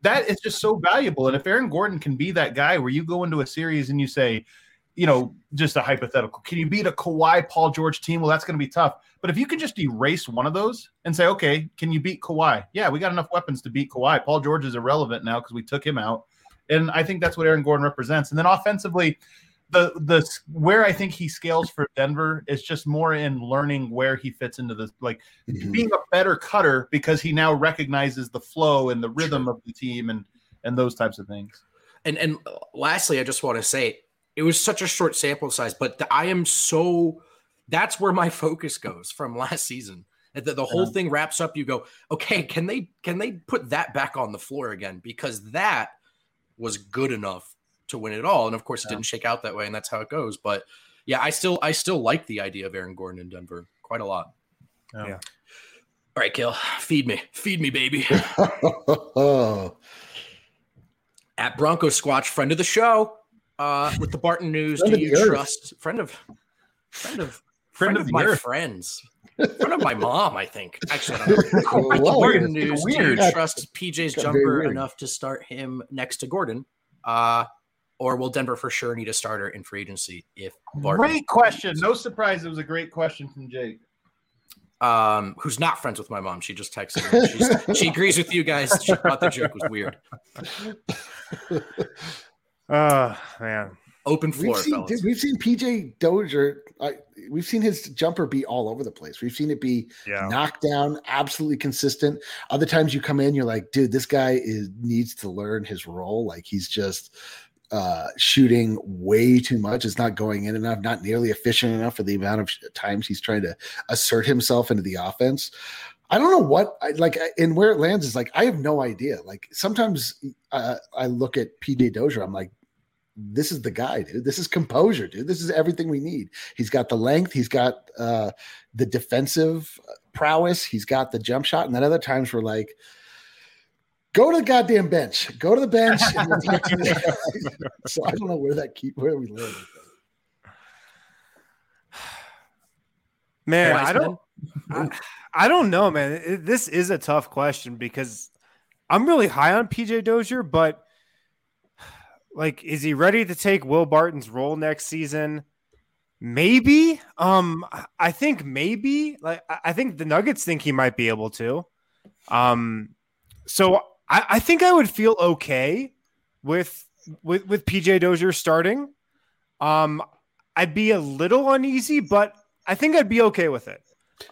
that is just so valuable. And if Aaron Gordon can be that guy where you go into a series and you say, just a hypothetical, can you beat a Kawhi, Paul George team? Well, that's going to be tough. But if you can just erase one of those and say, okay, can you beat Kawhi? Yeah, we got enough weapons to beat Kawhi. Paul George is irrelevant now because we took him out. And I think that's what Aaron Gordon represents. And then offensively, the where I think he scales for Denver is just more in learning where he fits into this, being a better cutter because he now recognizes the flow and the rhythm of the team and those types of things. And lastly, I just want to say it was such a short sample size, but that's where my focus goes from last season. The whole thing wraps up. You go, okay, can they put that back on the floor again? Because that was good enough to win it all. And of course it didn't shake out that way, and that's how it goes. But yeah, I still like the idea of Aaron Gordon in Denver quite a lot. Yeah. All right, Kale, feed me, baby. At Bronco Squatch, friend of the show, with the Barton News. Do you trust friend of my friends? Friend of my mom, I think. Actually, I don't know. Barton News. Do you trust PJ's jumper enough to start him next to Gordon? Or will Denver for sure need a starter in free agency if Barton? Great question. No surprise. It was a great question from Jake. Who's not friends with my mom. She just texted me. She agrees with you guys. She thought the joke was weird. Man. Open floor, we've seen PJ Dozier. We've seen his jumper be all over the place. We've seen it be knocked down, absolutely consistent. Other times you come in, you're like, dude, this guy needs to learn his role. Like he's just shooting way too much. It's not going in enough, not nearly efficient enough for the amount of times he's trying to assert himself into the offense. I don't know what and where it lands is I have no idea. Like sometimes I look at PJ Dozier, I'm like, this is the guy, dude. This is composure, dude. This is everything we need. He's got the length. He's got the defensive prowess. He's got the jump shot. And then other times we're like, go to the goddamn bench. Go to the bench. So I don't know where we live. Man, I don't know, man. This is a tough question because I'm really high on PJ Dozier, but is he ready to take Will Barton's role next season? Maybe. I think maybe. I think the Nuggets think he might be able to. So I think I would feel okay with PJ Dozier starting. I'd be a little uneasy, but I think I'd be okay with it.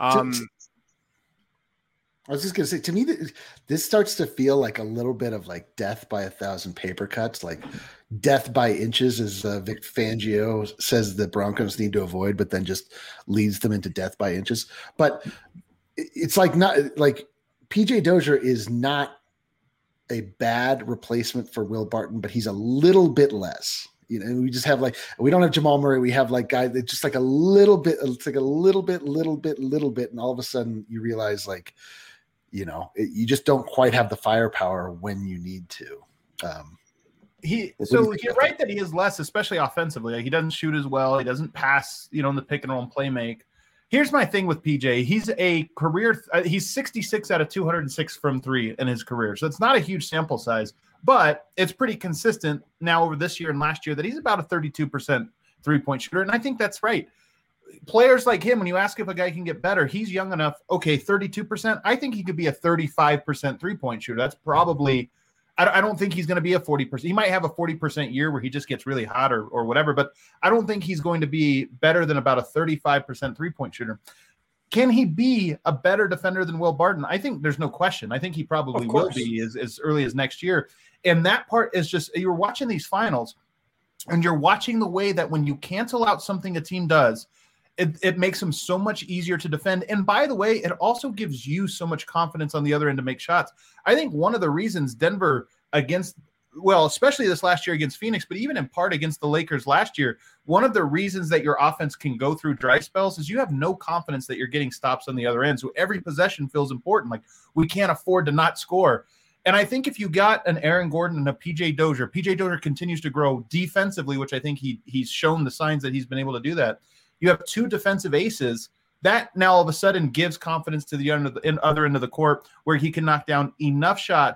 I was just going to say, to me, this starts to feel like a little bit of death by 1,000 paper cuts, like death by inches, as Vic Fangio says the Broncos need to avoid, but then just leads them into death by inches. But it's not PJ Dozier is not a bad replacement for Will Barton, but he's a little bit less. We just have we don't have Jamal Murray. We have guy that just a little bit. It's a little bit, and all of a sudden you realize you just don't quite have the firepower when you need to. You're right that he is less, especially offensively. He doesn't shoot as well. He doesn't pass, in the pick and roll and play make. Here's my thing with PJ. He's a career. He's 66 out of 206 from three in his career. So it's not a huge sample size, but it's pretty consistent now over this year and last year that he's about a 32% 3-point shooter. And I think that's right. Players like him, when you ask if a guy can get better, he's young enough. Okay, 32%. I think he could be a 35% 3-point shooter. That's probably, I don't think he's going to be a 40%. He might have a 40% year where he just gets really hot or whatever, but I don't think he's going to be better than about a 35% 3-point shooter. Can he be a better defender than Will Barton? I think there's no question. I think he probably will be as early as next year. And that part is just, you're watching these finals and you're watching the way that when you cancel out something a team does, it makes them so much easier to defend. And by the way, it also gives you so much confidence on the other end to make shots. I think one of the reasons Denver especially this last year against Phoenix, but even in part against the Lakers last year, one of the reasons that your offense can go through dry spells is you have no confidence that you're getting stops on the other end. So every possession feels important. We can't afford to not score. And I think if you got an Aaron Gordon and a PJ Dozier continues to grow defensively, which I think he's shown the signs that he's been able to do that. You have two defensive aces that now all of a sudden gives confidence to the other end of the court where he can knock down enough shots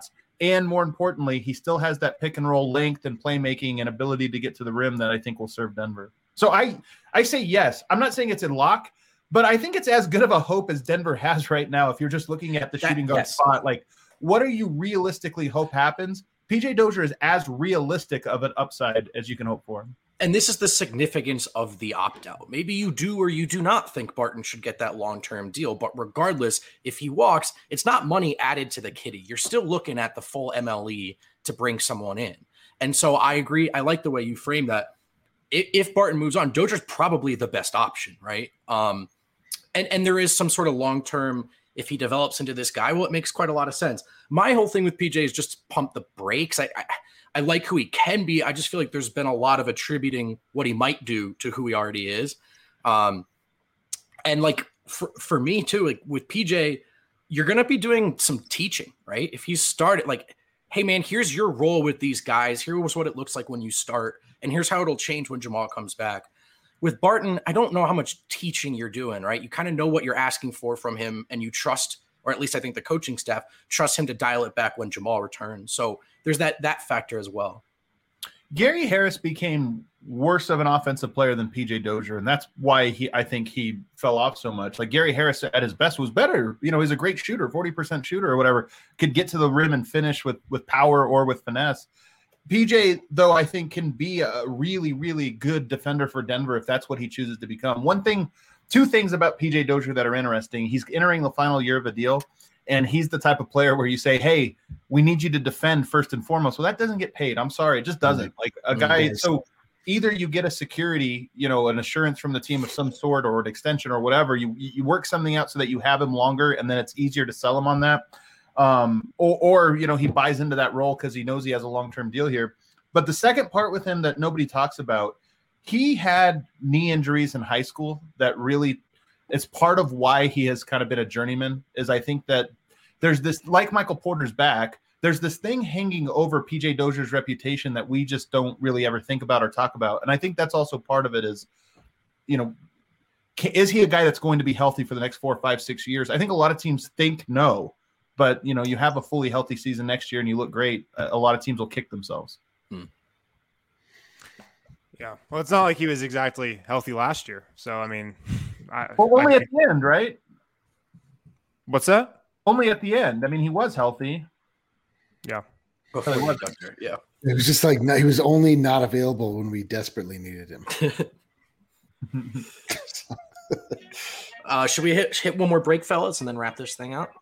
And more importantly, he still has that pick and roll length and playmaking and ability to get to the rim that I think will serve Denver. So I say yes. I'm not saying it's in lock, but I think it's as good of a hope as Denver has right now. If you're just looking at the shooting guard spot, like what do you realistically hope happens? PJ Dozier is as realistic of an upside as you can hope for. And this is the significance of the opt-out. Maybe you do or you do not think Barton should get that long-term deal, but regardless, if he walks, it's not money added to the kitty. You're still looking at the full MLE to bring someone in. And so I agree. I like the way you frame that. If Barton moves on, Dozier's probably the best option, right? And there is some sort of long-term, if he develops into this guy, well, it makes quite a lot of sense. My whole thing with PJ is just pump the brakes. I like who he can be. I just feel like there's been a lot of attributing what he might do to who he already is. And like for me too, like with PJ, you're going to be doing some teaching, right? If you start like, hey man, here's your role with these guys. Here's what it looks like when you start. And here's how it'll change when Jamal comes back. With Barton, I don't know how much teaching you're doing, right? You kind of know what you're asking for from him and you trust, or at least I think the coaching staff trusts him to dial it back when Jamal returns. So there's that factor as well. Gary Harris became worse of an offensive player than PJ Dozier, and that's why I think he fell off so much. Like Gary Harris at his best was better. You know, he's a great shooter, 40% shooter or whatever, could get to the rim and finish with power or with finesse. PJ, though, I think can be a really, really good defender for Denver if that's what he chooses to become. Two things about PJ Dozier that are interesting. He's entering the final year of a deal, and he's the type of player where you say, hey, we need you to defend first and foremost. Well, that doesn't get paid. I'm sorry. It just doesn't. Like a guy. So either you get a security, an assurance from the team of some sort or an extension or whatever. You work something out so that you have him longer, and then it's easier to sell him on that. Or he buys into that role because he knows he has a long-term deal here. But the second part with him that nobody talks about, he had knee injuries in high school that really is part of why he has kind of been a journeyman. Is I think that there's this, like Michael Porter's back, there's this thing hanging over PJ Dozier's reputation that we just don't really ever think about or talk about. And I think that's also part of it is, is he a guy that's going to be healthy for the next 4, 5, 6 years? I think a lot of teams think no. But, you have a fully healthy season next year and you look great. A lot of teams will kick themselves. Yeah. Well, it's not like he was exactly healthy last year. So, I mean. Only at the end, right? What's that? Only at the end. I mean, he was healthy. Yeah. Before he got there. Yeah. It was just like he was only not available when we desperately needed him. Should we hit one more break, fellas, and then wrap this thing out?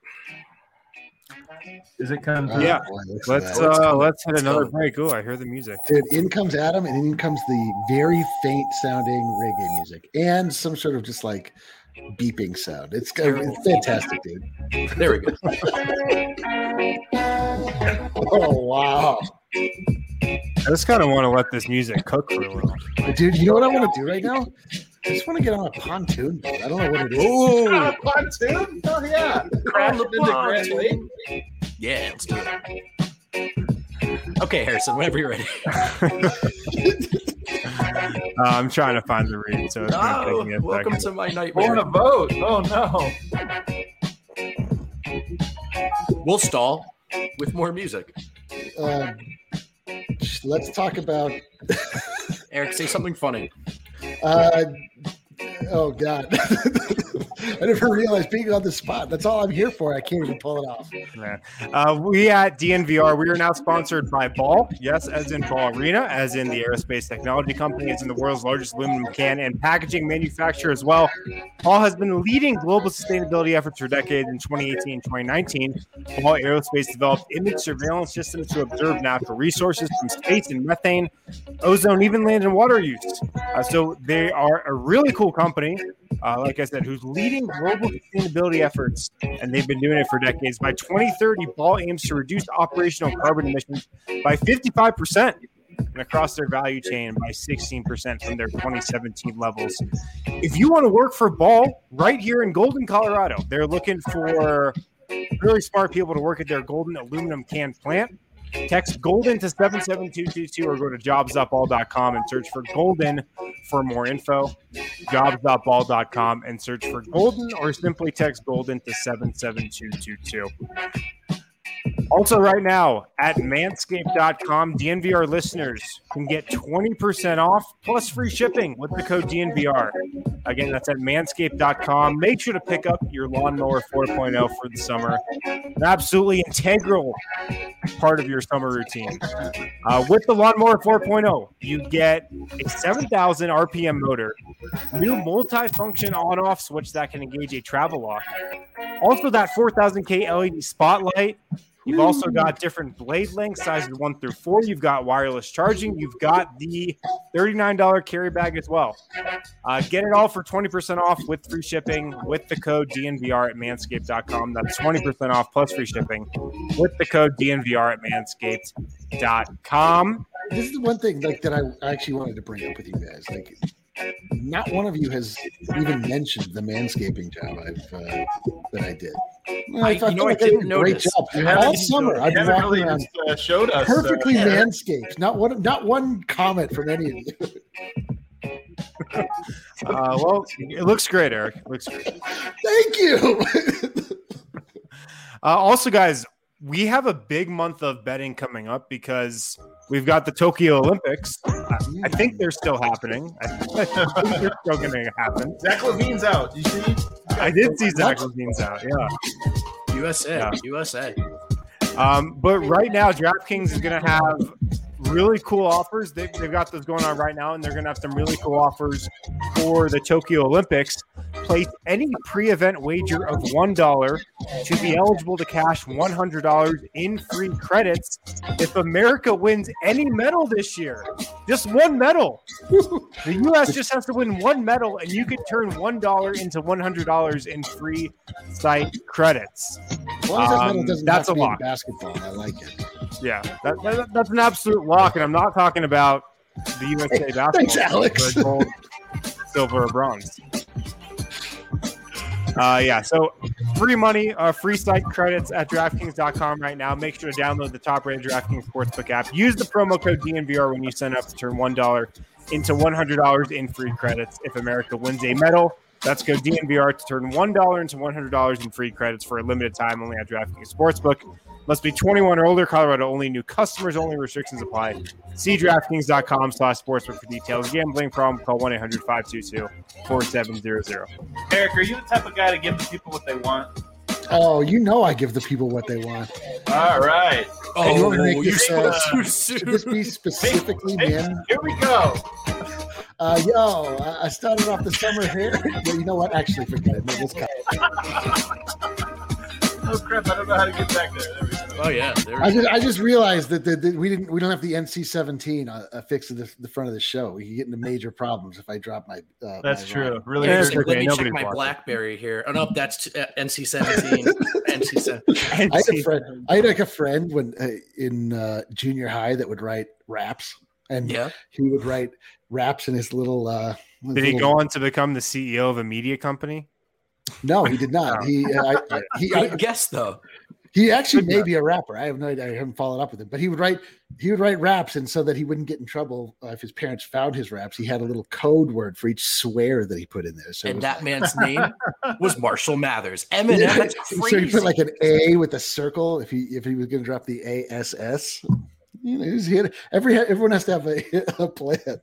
Is it kind of yeah? Let's hit another break. Oh, I hear the music. Dude, in comes Adam, and in comes the very faint sounding reggae music, and some sort of just like beeping sound. It's fantastic, dude. There we go. Oh wow! I just kind of want to let this music cook for a little. Dude, you know what I want to do right now? I just want to get on a pontoon boat. I don't know what it is. Ooh, a pontoon? Oh, yeah. Crash into Grand Lake. Yeah, let's do it. Okay, Harrison, whenever you're ready. I'm trying to find the read. So it's welcome to my nightmare. On a boat. Oh, no. We'll stall with more music. Let's talk about... Eric, say something funny. Oh God! I never realized being on the spot. That's all I'm here for. I can't even pull it off. We at DNVR, we are now sponsored by Ball. Yes, as in Ball Arena, as in the aerospace technology company, as in the world's largest aluminum can and packaging manufacturer as well. Ball has been leading global sustainability efforts for decades. In 2018 and 2019, Ball Aerospace developed image surveillance systems to observe natural resources from space and methane, ozone, even land and water use. So they are a really cool company. Like I said, who's leading global sustainability efforts, and they've been doing it for decades. By 2030, Ball aims to reduce operational carbon emissions by 55% and across their value chain by 16% from their 2017 levels. If you want to work for Ball right here in Golden, Colorado, they're looking for really smart people to work at their Golden aluminum can plant. Text Golden to 77222 or go to jobs.ball.com and search for Golden for more info. Jobs.ball.com and search for Golden or simply text Golden to 77222. Also, right now at manscaped.com, DNVR listeners can get 20% off plus free shipping with the code DNVR. Again, that's at manscaped.com. Make sure to pick up your Lawnmower 4.0 for the summer. An absolutely integral part of your summer routine. With the Lawnmower 4.0, you get a 7,000 RPM motor, new multi-function on-off switch that can engage a travel lock. Also, that 4,000K LED spotlight. You've also got different blade lengths, sizes 1 through 4. You've got wireless charging. You've got the $39 carry bag as well. Get it all for 20% off with free shipping with the code DNVR at manscaped.com. That's 20% off plus free shipping with the code DNVR at manscaped.com. This is the one thing that I actually wanted to bring up with you guys. Not one of you has even mentioned the manscaping job that I did. I didn't notice. Great job. All summer, I've been walking around showed us perfectly manscaped. Not one comment from any of you. Well, it looks great, Eric. It looks great. Thank you. Also, guys, we have a big month of betting coming up because we've got the Tokyo Olympics. I think they're still happening. I think they're still going to happen. Zach LaVine's out. You see? I did see Zach LaVine's out. Yeah. USA. But right now, DraftKings is going to have really cool offers. They've got those going on right now, and they're going to have some really cool offers for the Tokyo Olympics. Place any pre-event wager of $1 to be eligible to cash $100 in free credits if America wins any medal this year. Just one medal. The U.S. just has to win one medal, and you could turn $1 into $100 in free site credits. As long as that medal doesn't that's have to a be lock. in basketball, I like it. Yeah, that's an absolute lock, and I'm not talking about the USA basketball. Thanks, Alex. Gold, silver, or bronze. So free money, free site credits at DraftKings.com right now. Make sure to download the top-rated DraftKings Sportsbook app. Use the promo code DNVR when you sign up to turn $1 into $100 in free credits if America wins a medal. That's code DNVR to turn $1 into $100 in free credits for a limited time only at DraftKings Sportsbook. Must be 21 or older. Colorado only. New customers only. Restrictions apply. See DraftKings.com/sportsbook for details. Gambling problem? Call 1-800-522-4700. Eric, are you the type of guy to give the people what they want? Oh, I give the people what they want. All right. Oh, you want me to make you're this, should this be specifically men? Here we go. I started off the summer here. Well, you know what? Actually, forget it. No, let's cut it. Oh crap! I don't know how to get back there. There we go. Oh yeah. I just realized that we don't have the NC-17 affixed to the front of the show. We can get into major problems if I drop my. That's true. Line. Really. Let me check my BlackBerry here. Oh no, that's NC-17. NC-17. I had a friend when in junior high that would write raps, and he would write raps in his little. Did he go on to become the CEO of a media company? No, he did not. I guess though. He actually may be a rapper. I have no idea. I haven't followed up with him, but he would write raps, and so that he wouldn't get in trouble if his parents found his raps, he had a little code word for each swear that he put in there. So that man's name was Marshall Mathers. Eminem. That's crazy. So he put like an A with a circle if he was going to drop the ASS. Everyone has to have a plan.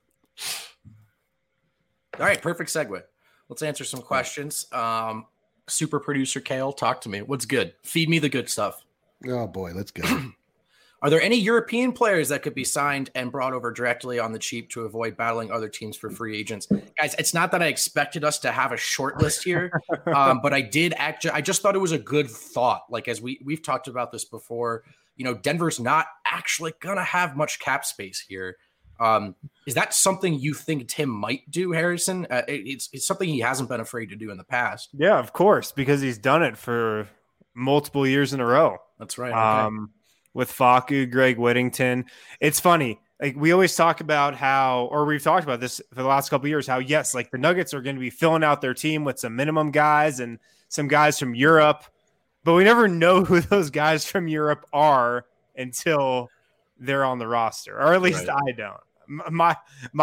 All right, perfect segue. Let's answer some questions. Super producer Kale, talk to me. What's good? Feed me the good stuff. Oh boy, let's go. Are there any European players that could be signed and brought over directly on the cheap to avoid battling other teams for free agents? Guys, it's not that I expected us to have a short list here, but I just thought it was a good thought. Like, as we've talked about this before, Denver's not actually going to have much cap space here. Is that something you think Tim might do, Harrison? It's something he hasn't been afraid to do in the past. Yeah, of course, because he's done it for multiple years in a row. That's right. Okay. With Facu, Greg Whittington. It's funny. Like, we always talk about we've talked about this for the last couple of years, how yes, like the Nuggets are going to be filling out their team with some minimum guys and some guys from Europe, but we never know who those guys from Europe are until they're on the roster, or at least I don't. My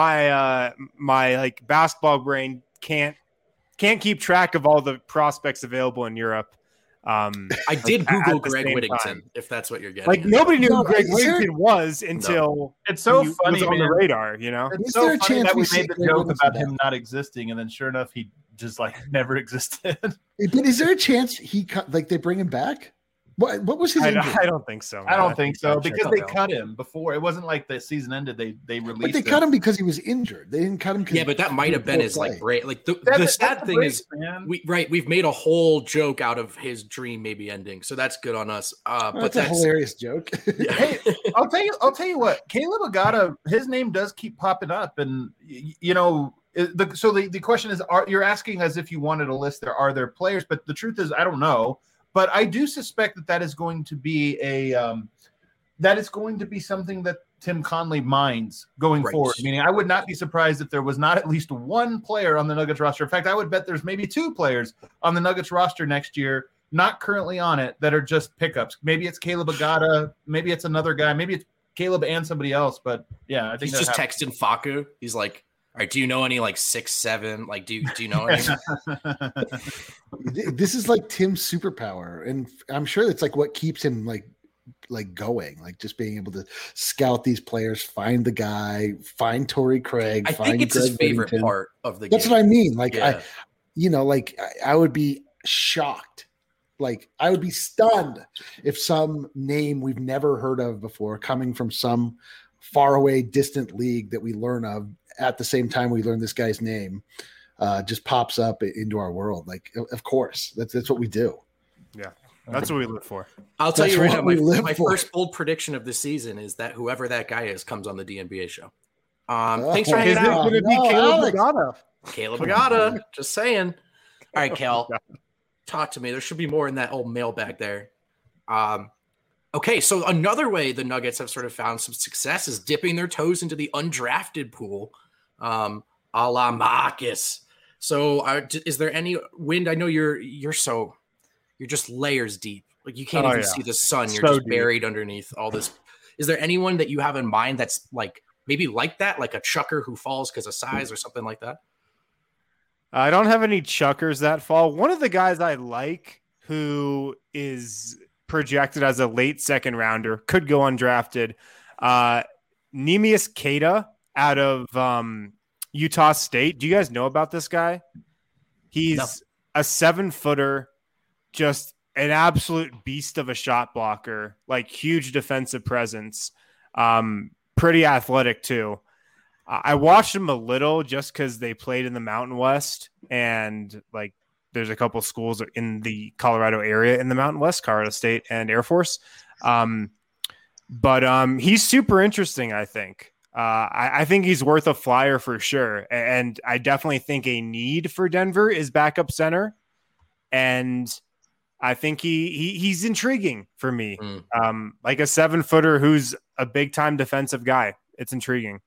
like basketball brain can't keep track of all the prospects available in Europe. I did Google Greg Whittington, time. if that's what you're getting. Like nobody knew who Greg Whittington was until it's so he funny was on the radar. You know, it's so funny that we made the joke about him not existing, and then sure enough, he just like never existed. But is there a chance they bring him back? What was his injury? I don't think so. I don't think so because they cut him before. It wasn't like the season ended. They released. But they cut him because he was injured. They didn't cut him. Yeah, but that might have been his like break. Like the sad thing is, we've made a whole joke out of his dream maybe ending. So that's good on us. But that's a hilarious joke. Hey, I'll tell you what. Caleb Agata, his name does keep popping up, and you know. So the question is, you're asking as if you wanted a list. Are there players? But the truth is, I don't know. But I do suspect that is going to be something that Tim Conley minds going forward. Meaning, I would not be surprised if there was not at least one player on the Nuggets roster. In fact, I would bet there's maybe two players on the Nuggets roster next year, not currently on it, that are just pickups. Maybe it's Caleb Agata. Maybe it's another guy. Maybe it's Caleb and somebody else. But yeah, I think he's just texting Facu. He's like, all right, do you know any like 6'7"? Like, do you know any? This is like Tim's superpower, and I'm sure it's like what keeps him like going, like just being able to scout these players, find the guy, find Torrey Craig. I think it's his favorite part of the game. That's what I mean. Like I would be shocked. Like I would be stunned if some name we've never heard of before, coming from some faraway, distant league that we learn of at the same time we learn this guy's name, just pops up into our world. Like, of course, that's what we do. Yeah, that's what we live for. I'll tell you right now, my first bold prediction of the season is that whoever that guy is comes on the DNBA show. Thanks for hanging out. It's going to be Caleb Agata. Caleb Agata, just saying. All right, Cal, talk to me. There should be more in that old mailbag there. Okay, so another way the Nuggets have sort of found some success is dipping their toes into the undrafted pool, a la Marcus. So is there any wind? I know you're just layers deep. Like you can't even see the sun. You're just buried underneath all this. Is there anyone that you have in mind that's like maybe like that, like a chucker who falls because of size or something like that? I don't have any chuckers that fall. One of the guys I like who is projected as a late second rounder, could go undrafted. Neemias Queta out of Utah State. Do you guys know about this guy? He's a 7-footer, just an absolute beast of a shot blocker, like huge defensive presence. Pretty athletic too. I watched him a little just because they played in the Mountain West, and like there's a couple schools in the Colorado area in the Mountain West, Colorado State and Air Force. But he's super interesting, I think. I think he's worth a flyer for sure. And I definitely think a need for Denver is backup center. And I think he's intriguing for me. Like a 7-footer who's a big-time defensive guy. It's intriguing.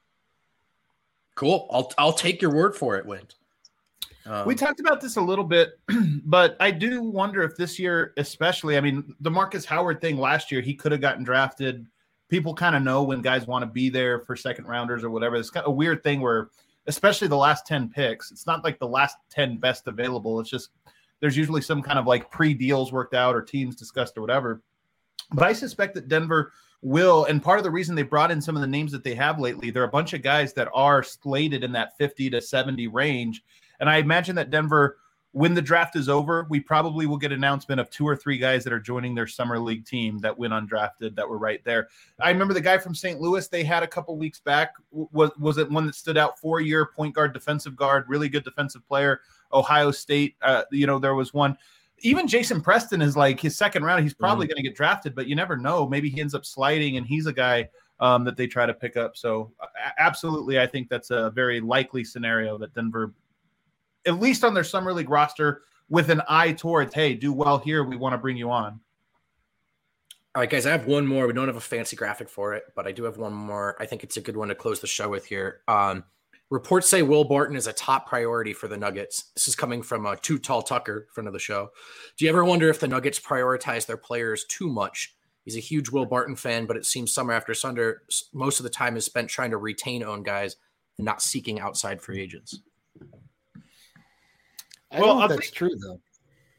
Cool. I'll take your word for it, Wind. We talked about this a little bit, but I do wonder if this year, especially, I mean, the Marcus Howard thing last year, he could have gotten drafted. People kind of know when guys want to be there for second rounders or whatever. It's kind of a weird thing where, especially the last 10 picks, it's not like the last 10 best available. It's just there's usually some kind of like pre-deals worked out or teams discussed or whatever. But I suspect that Denver will, and part of the reason they brought in some of the names that they have lately, there are a bunch of guys that are slated in that 50 to 70 range. And I imagine that Denver, when the draft is over, we probably will get an announcement of 2 or 3 guys that are joining their summer league team that went undrafted that were right there. I remember the guy from St. Louis they had a couple weeks back. Was it one that stood out? 4-year point guard, defensive guard, really good defensive player. Ohio State, there was one. Even Jason Preston is like his second round. He's probably going to get drafted, but you never know. Maybe he ends up sliding, and he's a guy that they try to pick up. So absolutely, I think that's a very likely scenario that Denver, at least on their summer league roster, with an eye towards, hey, do well here, we want to bring you on. All right, guys, I have one more. We don't have a fancy graphic for it, but I do have one more. I think it's a good one to close the show with here. Reports say Will Barton is a top priority for the Nuggets. This is coming from Too Tall Tucker, friend of the show. Do you ever wonder if the Nuggets prioritize their players too much? He's a huge Will Barton fan, but it seems summer after summer, most of the time is spent trying to retain own guys and not seeking outside free agents. I don't know if that's true, though.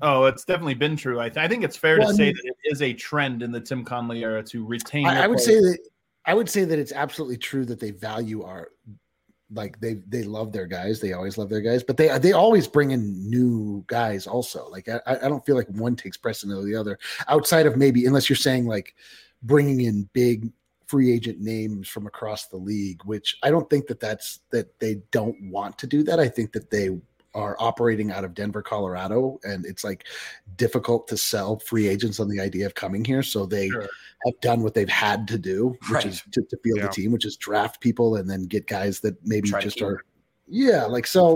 Oh, it's definitely been true. I think it's fair to say that it is a trend in the Tim Connelly era to retain. I would say that it's absolutely true that they value they love their guys. They always love their guys, but they always bring in new guys also. Like I don't feel like one takes precedent over the other, outside of maybe, unless you're saying like bringing in big free agent names from across the league, which I don't think that they don't want to do that. I think that they are operating out of Denver, Colorado, and it's like difficult to sell free agents on the idea of coming here. So they have done what they've had to do, which is to field the team, which is draft people and then get guys that maybe just are. Yeah. Like, so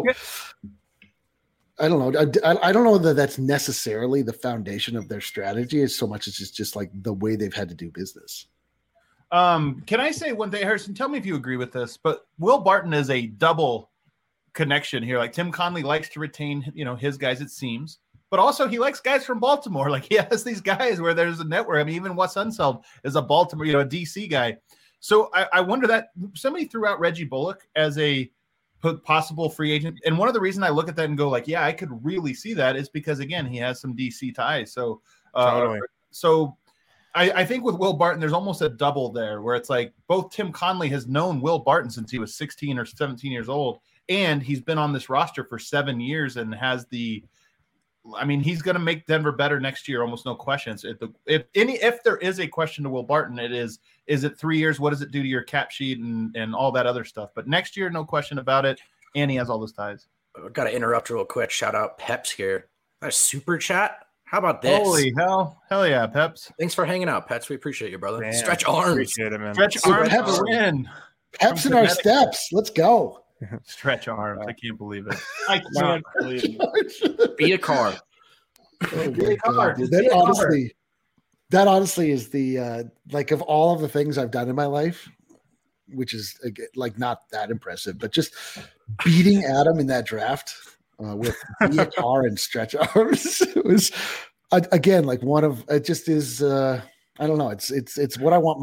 I don't know. I don't know that that's necessarily the foundation of their strategy as so much as it's just like the way they've had to do business. Can I say one thing, Harrison? Tell me if you agree with this, but Will Barton is a double connection here. Like Tim Connelly likes to retain, his guys, it seems, but also he likes guys from Baltimore. Like he has these guys where there's a network. I mean, even Wes Unseld is a Baltimore, a DC guy. So I wonder that somebody threw out Reggie Bullock as a possible free agent. And one of the reasons I look at that and go like, yeah, I could really see that is because again, he has some DC ties. So, totally. I think with Will Barton, there's almost a double there where it's like both Tim Connelly has known Will Barton since he was 16 or 17 years old. And he's been on this roster for 7 years and has he's going to make Denver better next year. Almost no questions. If there is a question to Will Barton, is it 3 years? What does it do to your cap sheet and all that other stuff? But next year, no question about it. And he has all those ties. I've got to interrupt real quick. Shout out Peps here. A super chat. How about this? Holy hell yeah, Peps. Thanks for hanging out, Peps. We appreciate you, brother. Man, Stretch arms. Appreciate it, man. Stretch arms for the win. Peps in our steps. Let's go. Stretch arms. I can't believe it. I can't believe it. Be a car. Oh my God. That honestly is the like of all of the things I've done in my life, which is like not that impressive, but just beating Adam in that draft with be a car and stretch arms. It was again like one of it. Just is I don't know. It's what I want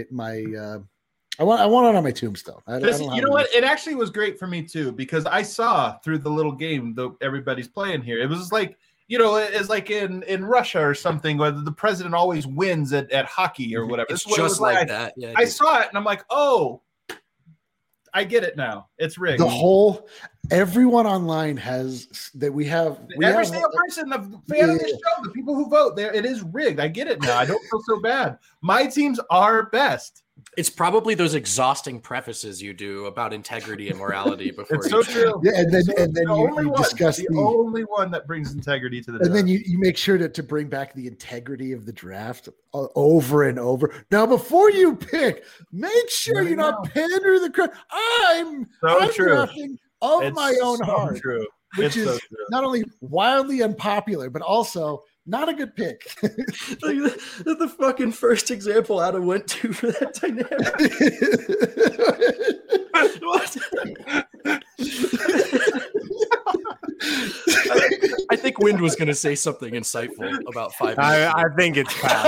I want it on my tombstone. You know what? It actually was great for me too because I saw through the little game that everybody's playing here. It was like it's like in Russia or something where the president always wins at hockey or whatever. It's just like that. Yeah, I saw it and I'm like, oh, I get it now. It's rigged. Everyone online has that we have. Every single person, the fan of this show, the people who vote there, it is rigged. I get it now. I don't feel so bad. My teams are best. It's probably those exhausting prefaces you do about integrity and morality before. It's so true. Yeah, and then you discuss the only one that brings integrity to the draft. And then you make sure to bring back the integrity of the draft over and over. Now, before you pick, make sure you're not pandering the crowd. I'm drafting of my own heart, which is not only wildly unpopular, but also not a good pick. the fucking first example Adam went to for that dynamic. I think Wind was going to say something insightful about 5 minutes. I think it's past.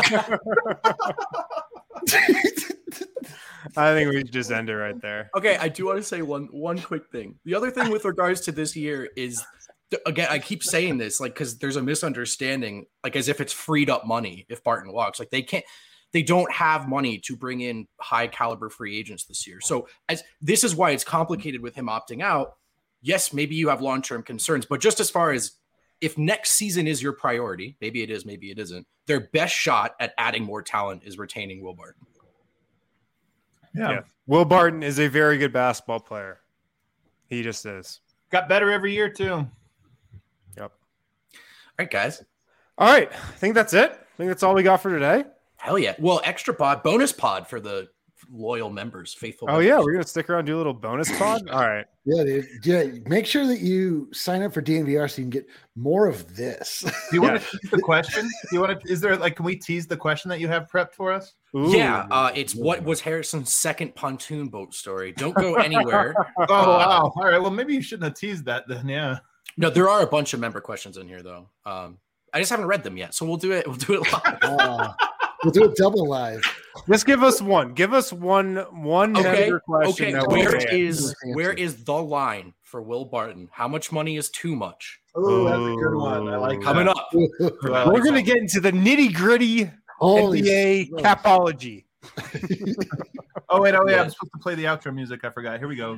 I think we should just end it right there. Okay, I do want to say one quick thing. The other thing with regards to this year is, again, I keep saying this, like, because there's a misunderstanding, like, as if it's freed up money if Barton walks. Like, they don't have money to bring in high caliber free agents this year. So this is why it's complicated with him opting out. Yes, maybe you have long-term concerns, but just as far as if next season is your priority, maybe it is, maybe it isn't, their best shot at adding more talent is retaining Will Barton. Yeah. Will Barton is a very good basketball player. He just is. Got better every year, too. Yep. All right, guys. All right. I think that's it. I think that's all we got for today. Hell yeah. Well, extra pod, bonus pod for the loyal members, faithful members. Yeah. We're going to stick around and do a little bonus pod. All right. Yeah, dude. Yeah. Make sure that you sign up for DNVR so you can get more of this. Do you want to tease the question? Can we tease the question that you have prepped for us? Ooh. Yeah. It's what was Harrison's second pontoon boat story? Don't go anywhere. Wow. All right. Well, maybe you shouldn't have teased that then. Yeah. No, there are a bunch of member questions in here though. I just haven't read them yet. So we'll do it. We'll do it live. We'll do it double live. Just give us one. Give us one member question. Okay. Where is the line for Will Barton. How much money is too much? Oh, that's a good one. I like Coming that. up. We're going to get into the nitty gritty NBA capology. Oh, wait. I'm supposed to play the outro music. I forgot. Here we go.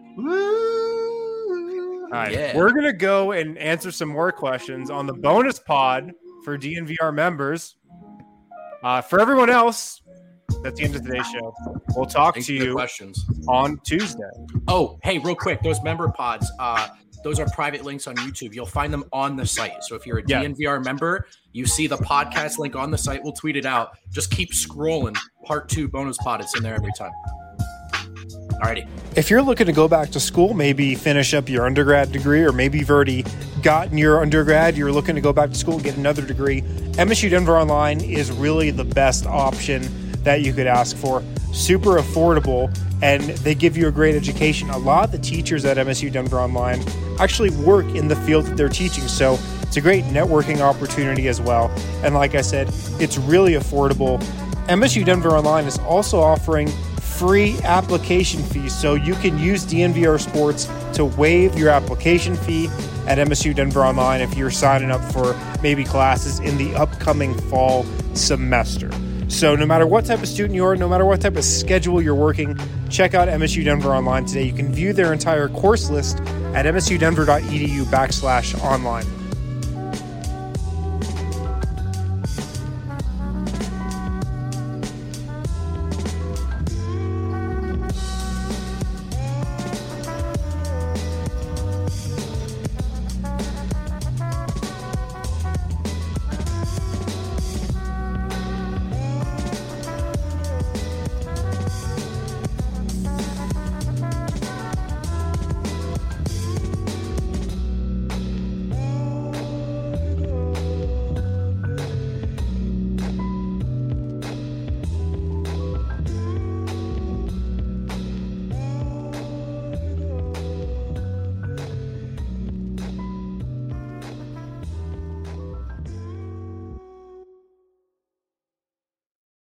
All right. Yeah. We're going to go and answer some more questions on the bonus pod for DNVR members. For everyone else, that's the end of today's show. We'll talk to you questions on Tuesday. Oh, hey, real quick, those member pods, those are private links on YouTube. You'll find them on the site. So if you're a DNVR member, you see the podcast link on the site. We'll tweet it out. Just keep scrolling. Part 2 bonus pod. It's in there every time. Alrighty. If you're looking to go back to school, maybe finish up your undergrad degree, or maybe you've already gotten your undergrad, you're looking to go back to school and get another degree, MSU Denver Online is really the best option that you could ask for. Super affordable, and they give you a great education. A lot of the teachers at MSU Denver Online actually work in the field that they're teaching, so it's a great networking opportunity as well. And like I said, it's really affordable. MSU Denver Online is also offering free application fees, so you can use DNVR Sports to waive your application fee at MSU Denver Online if you're signing up for maybe classes in the upcoming fall semester. So no matter what type of student you are, no matter what type of schedule you're working, check out MSU Denver Online today. You can view their entire course list at msudenver.edu/online.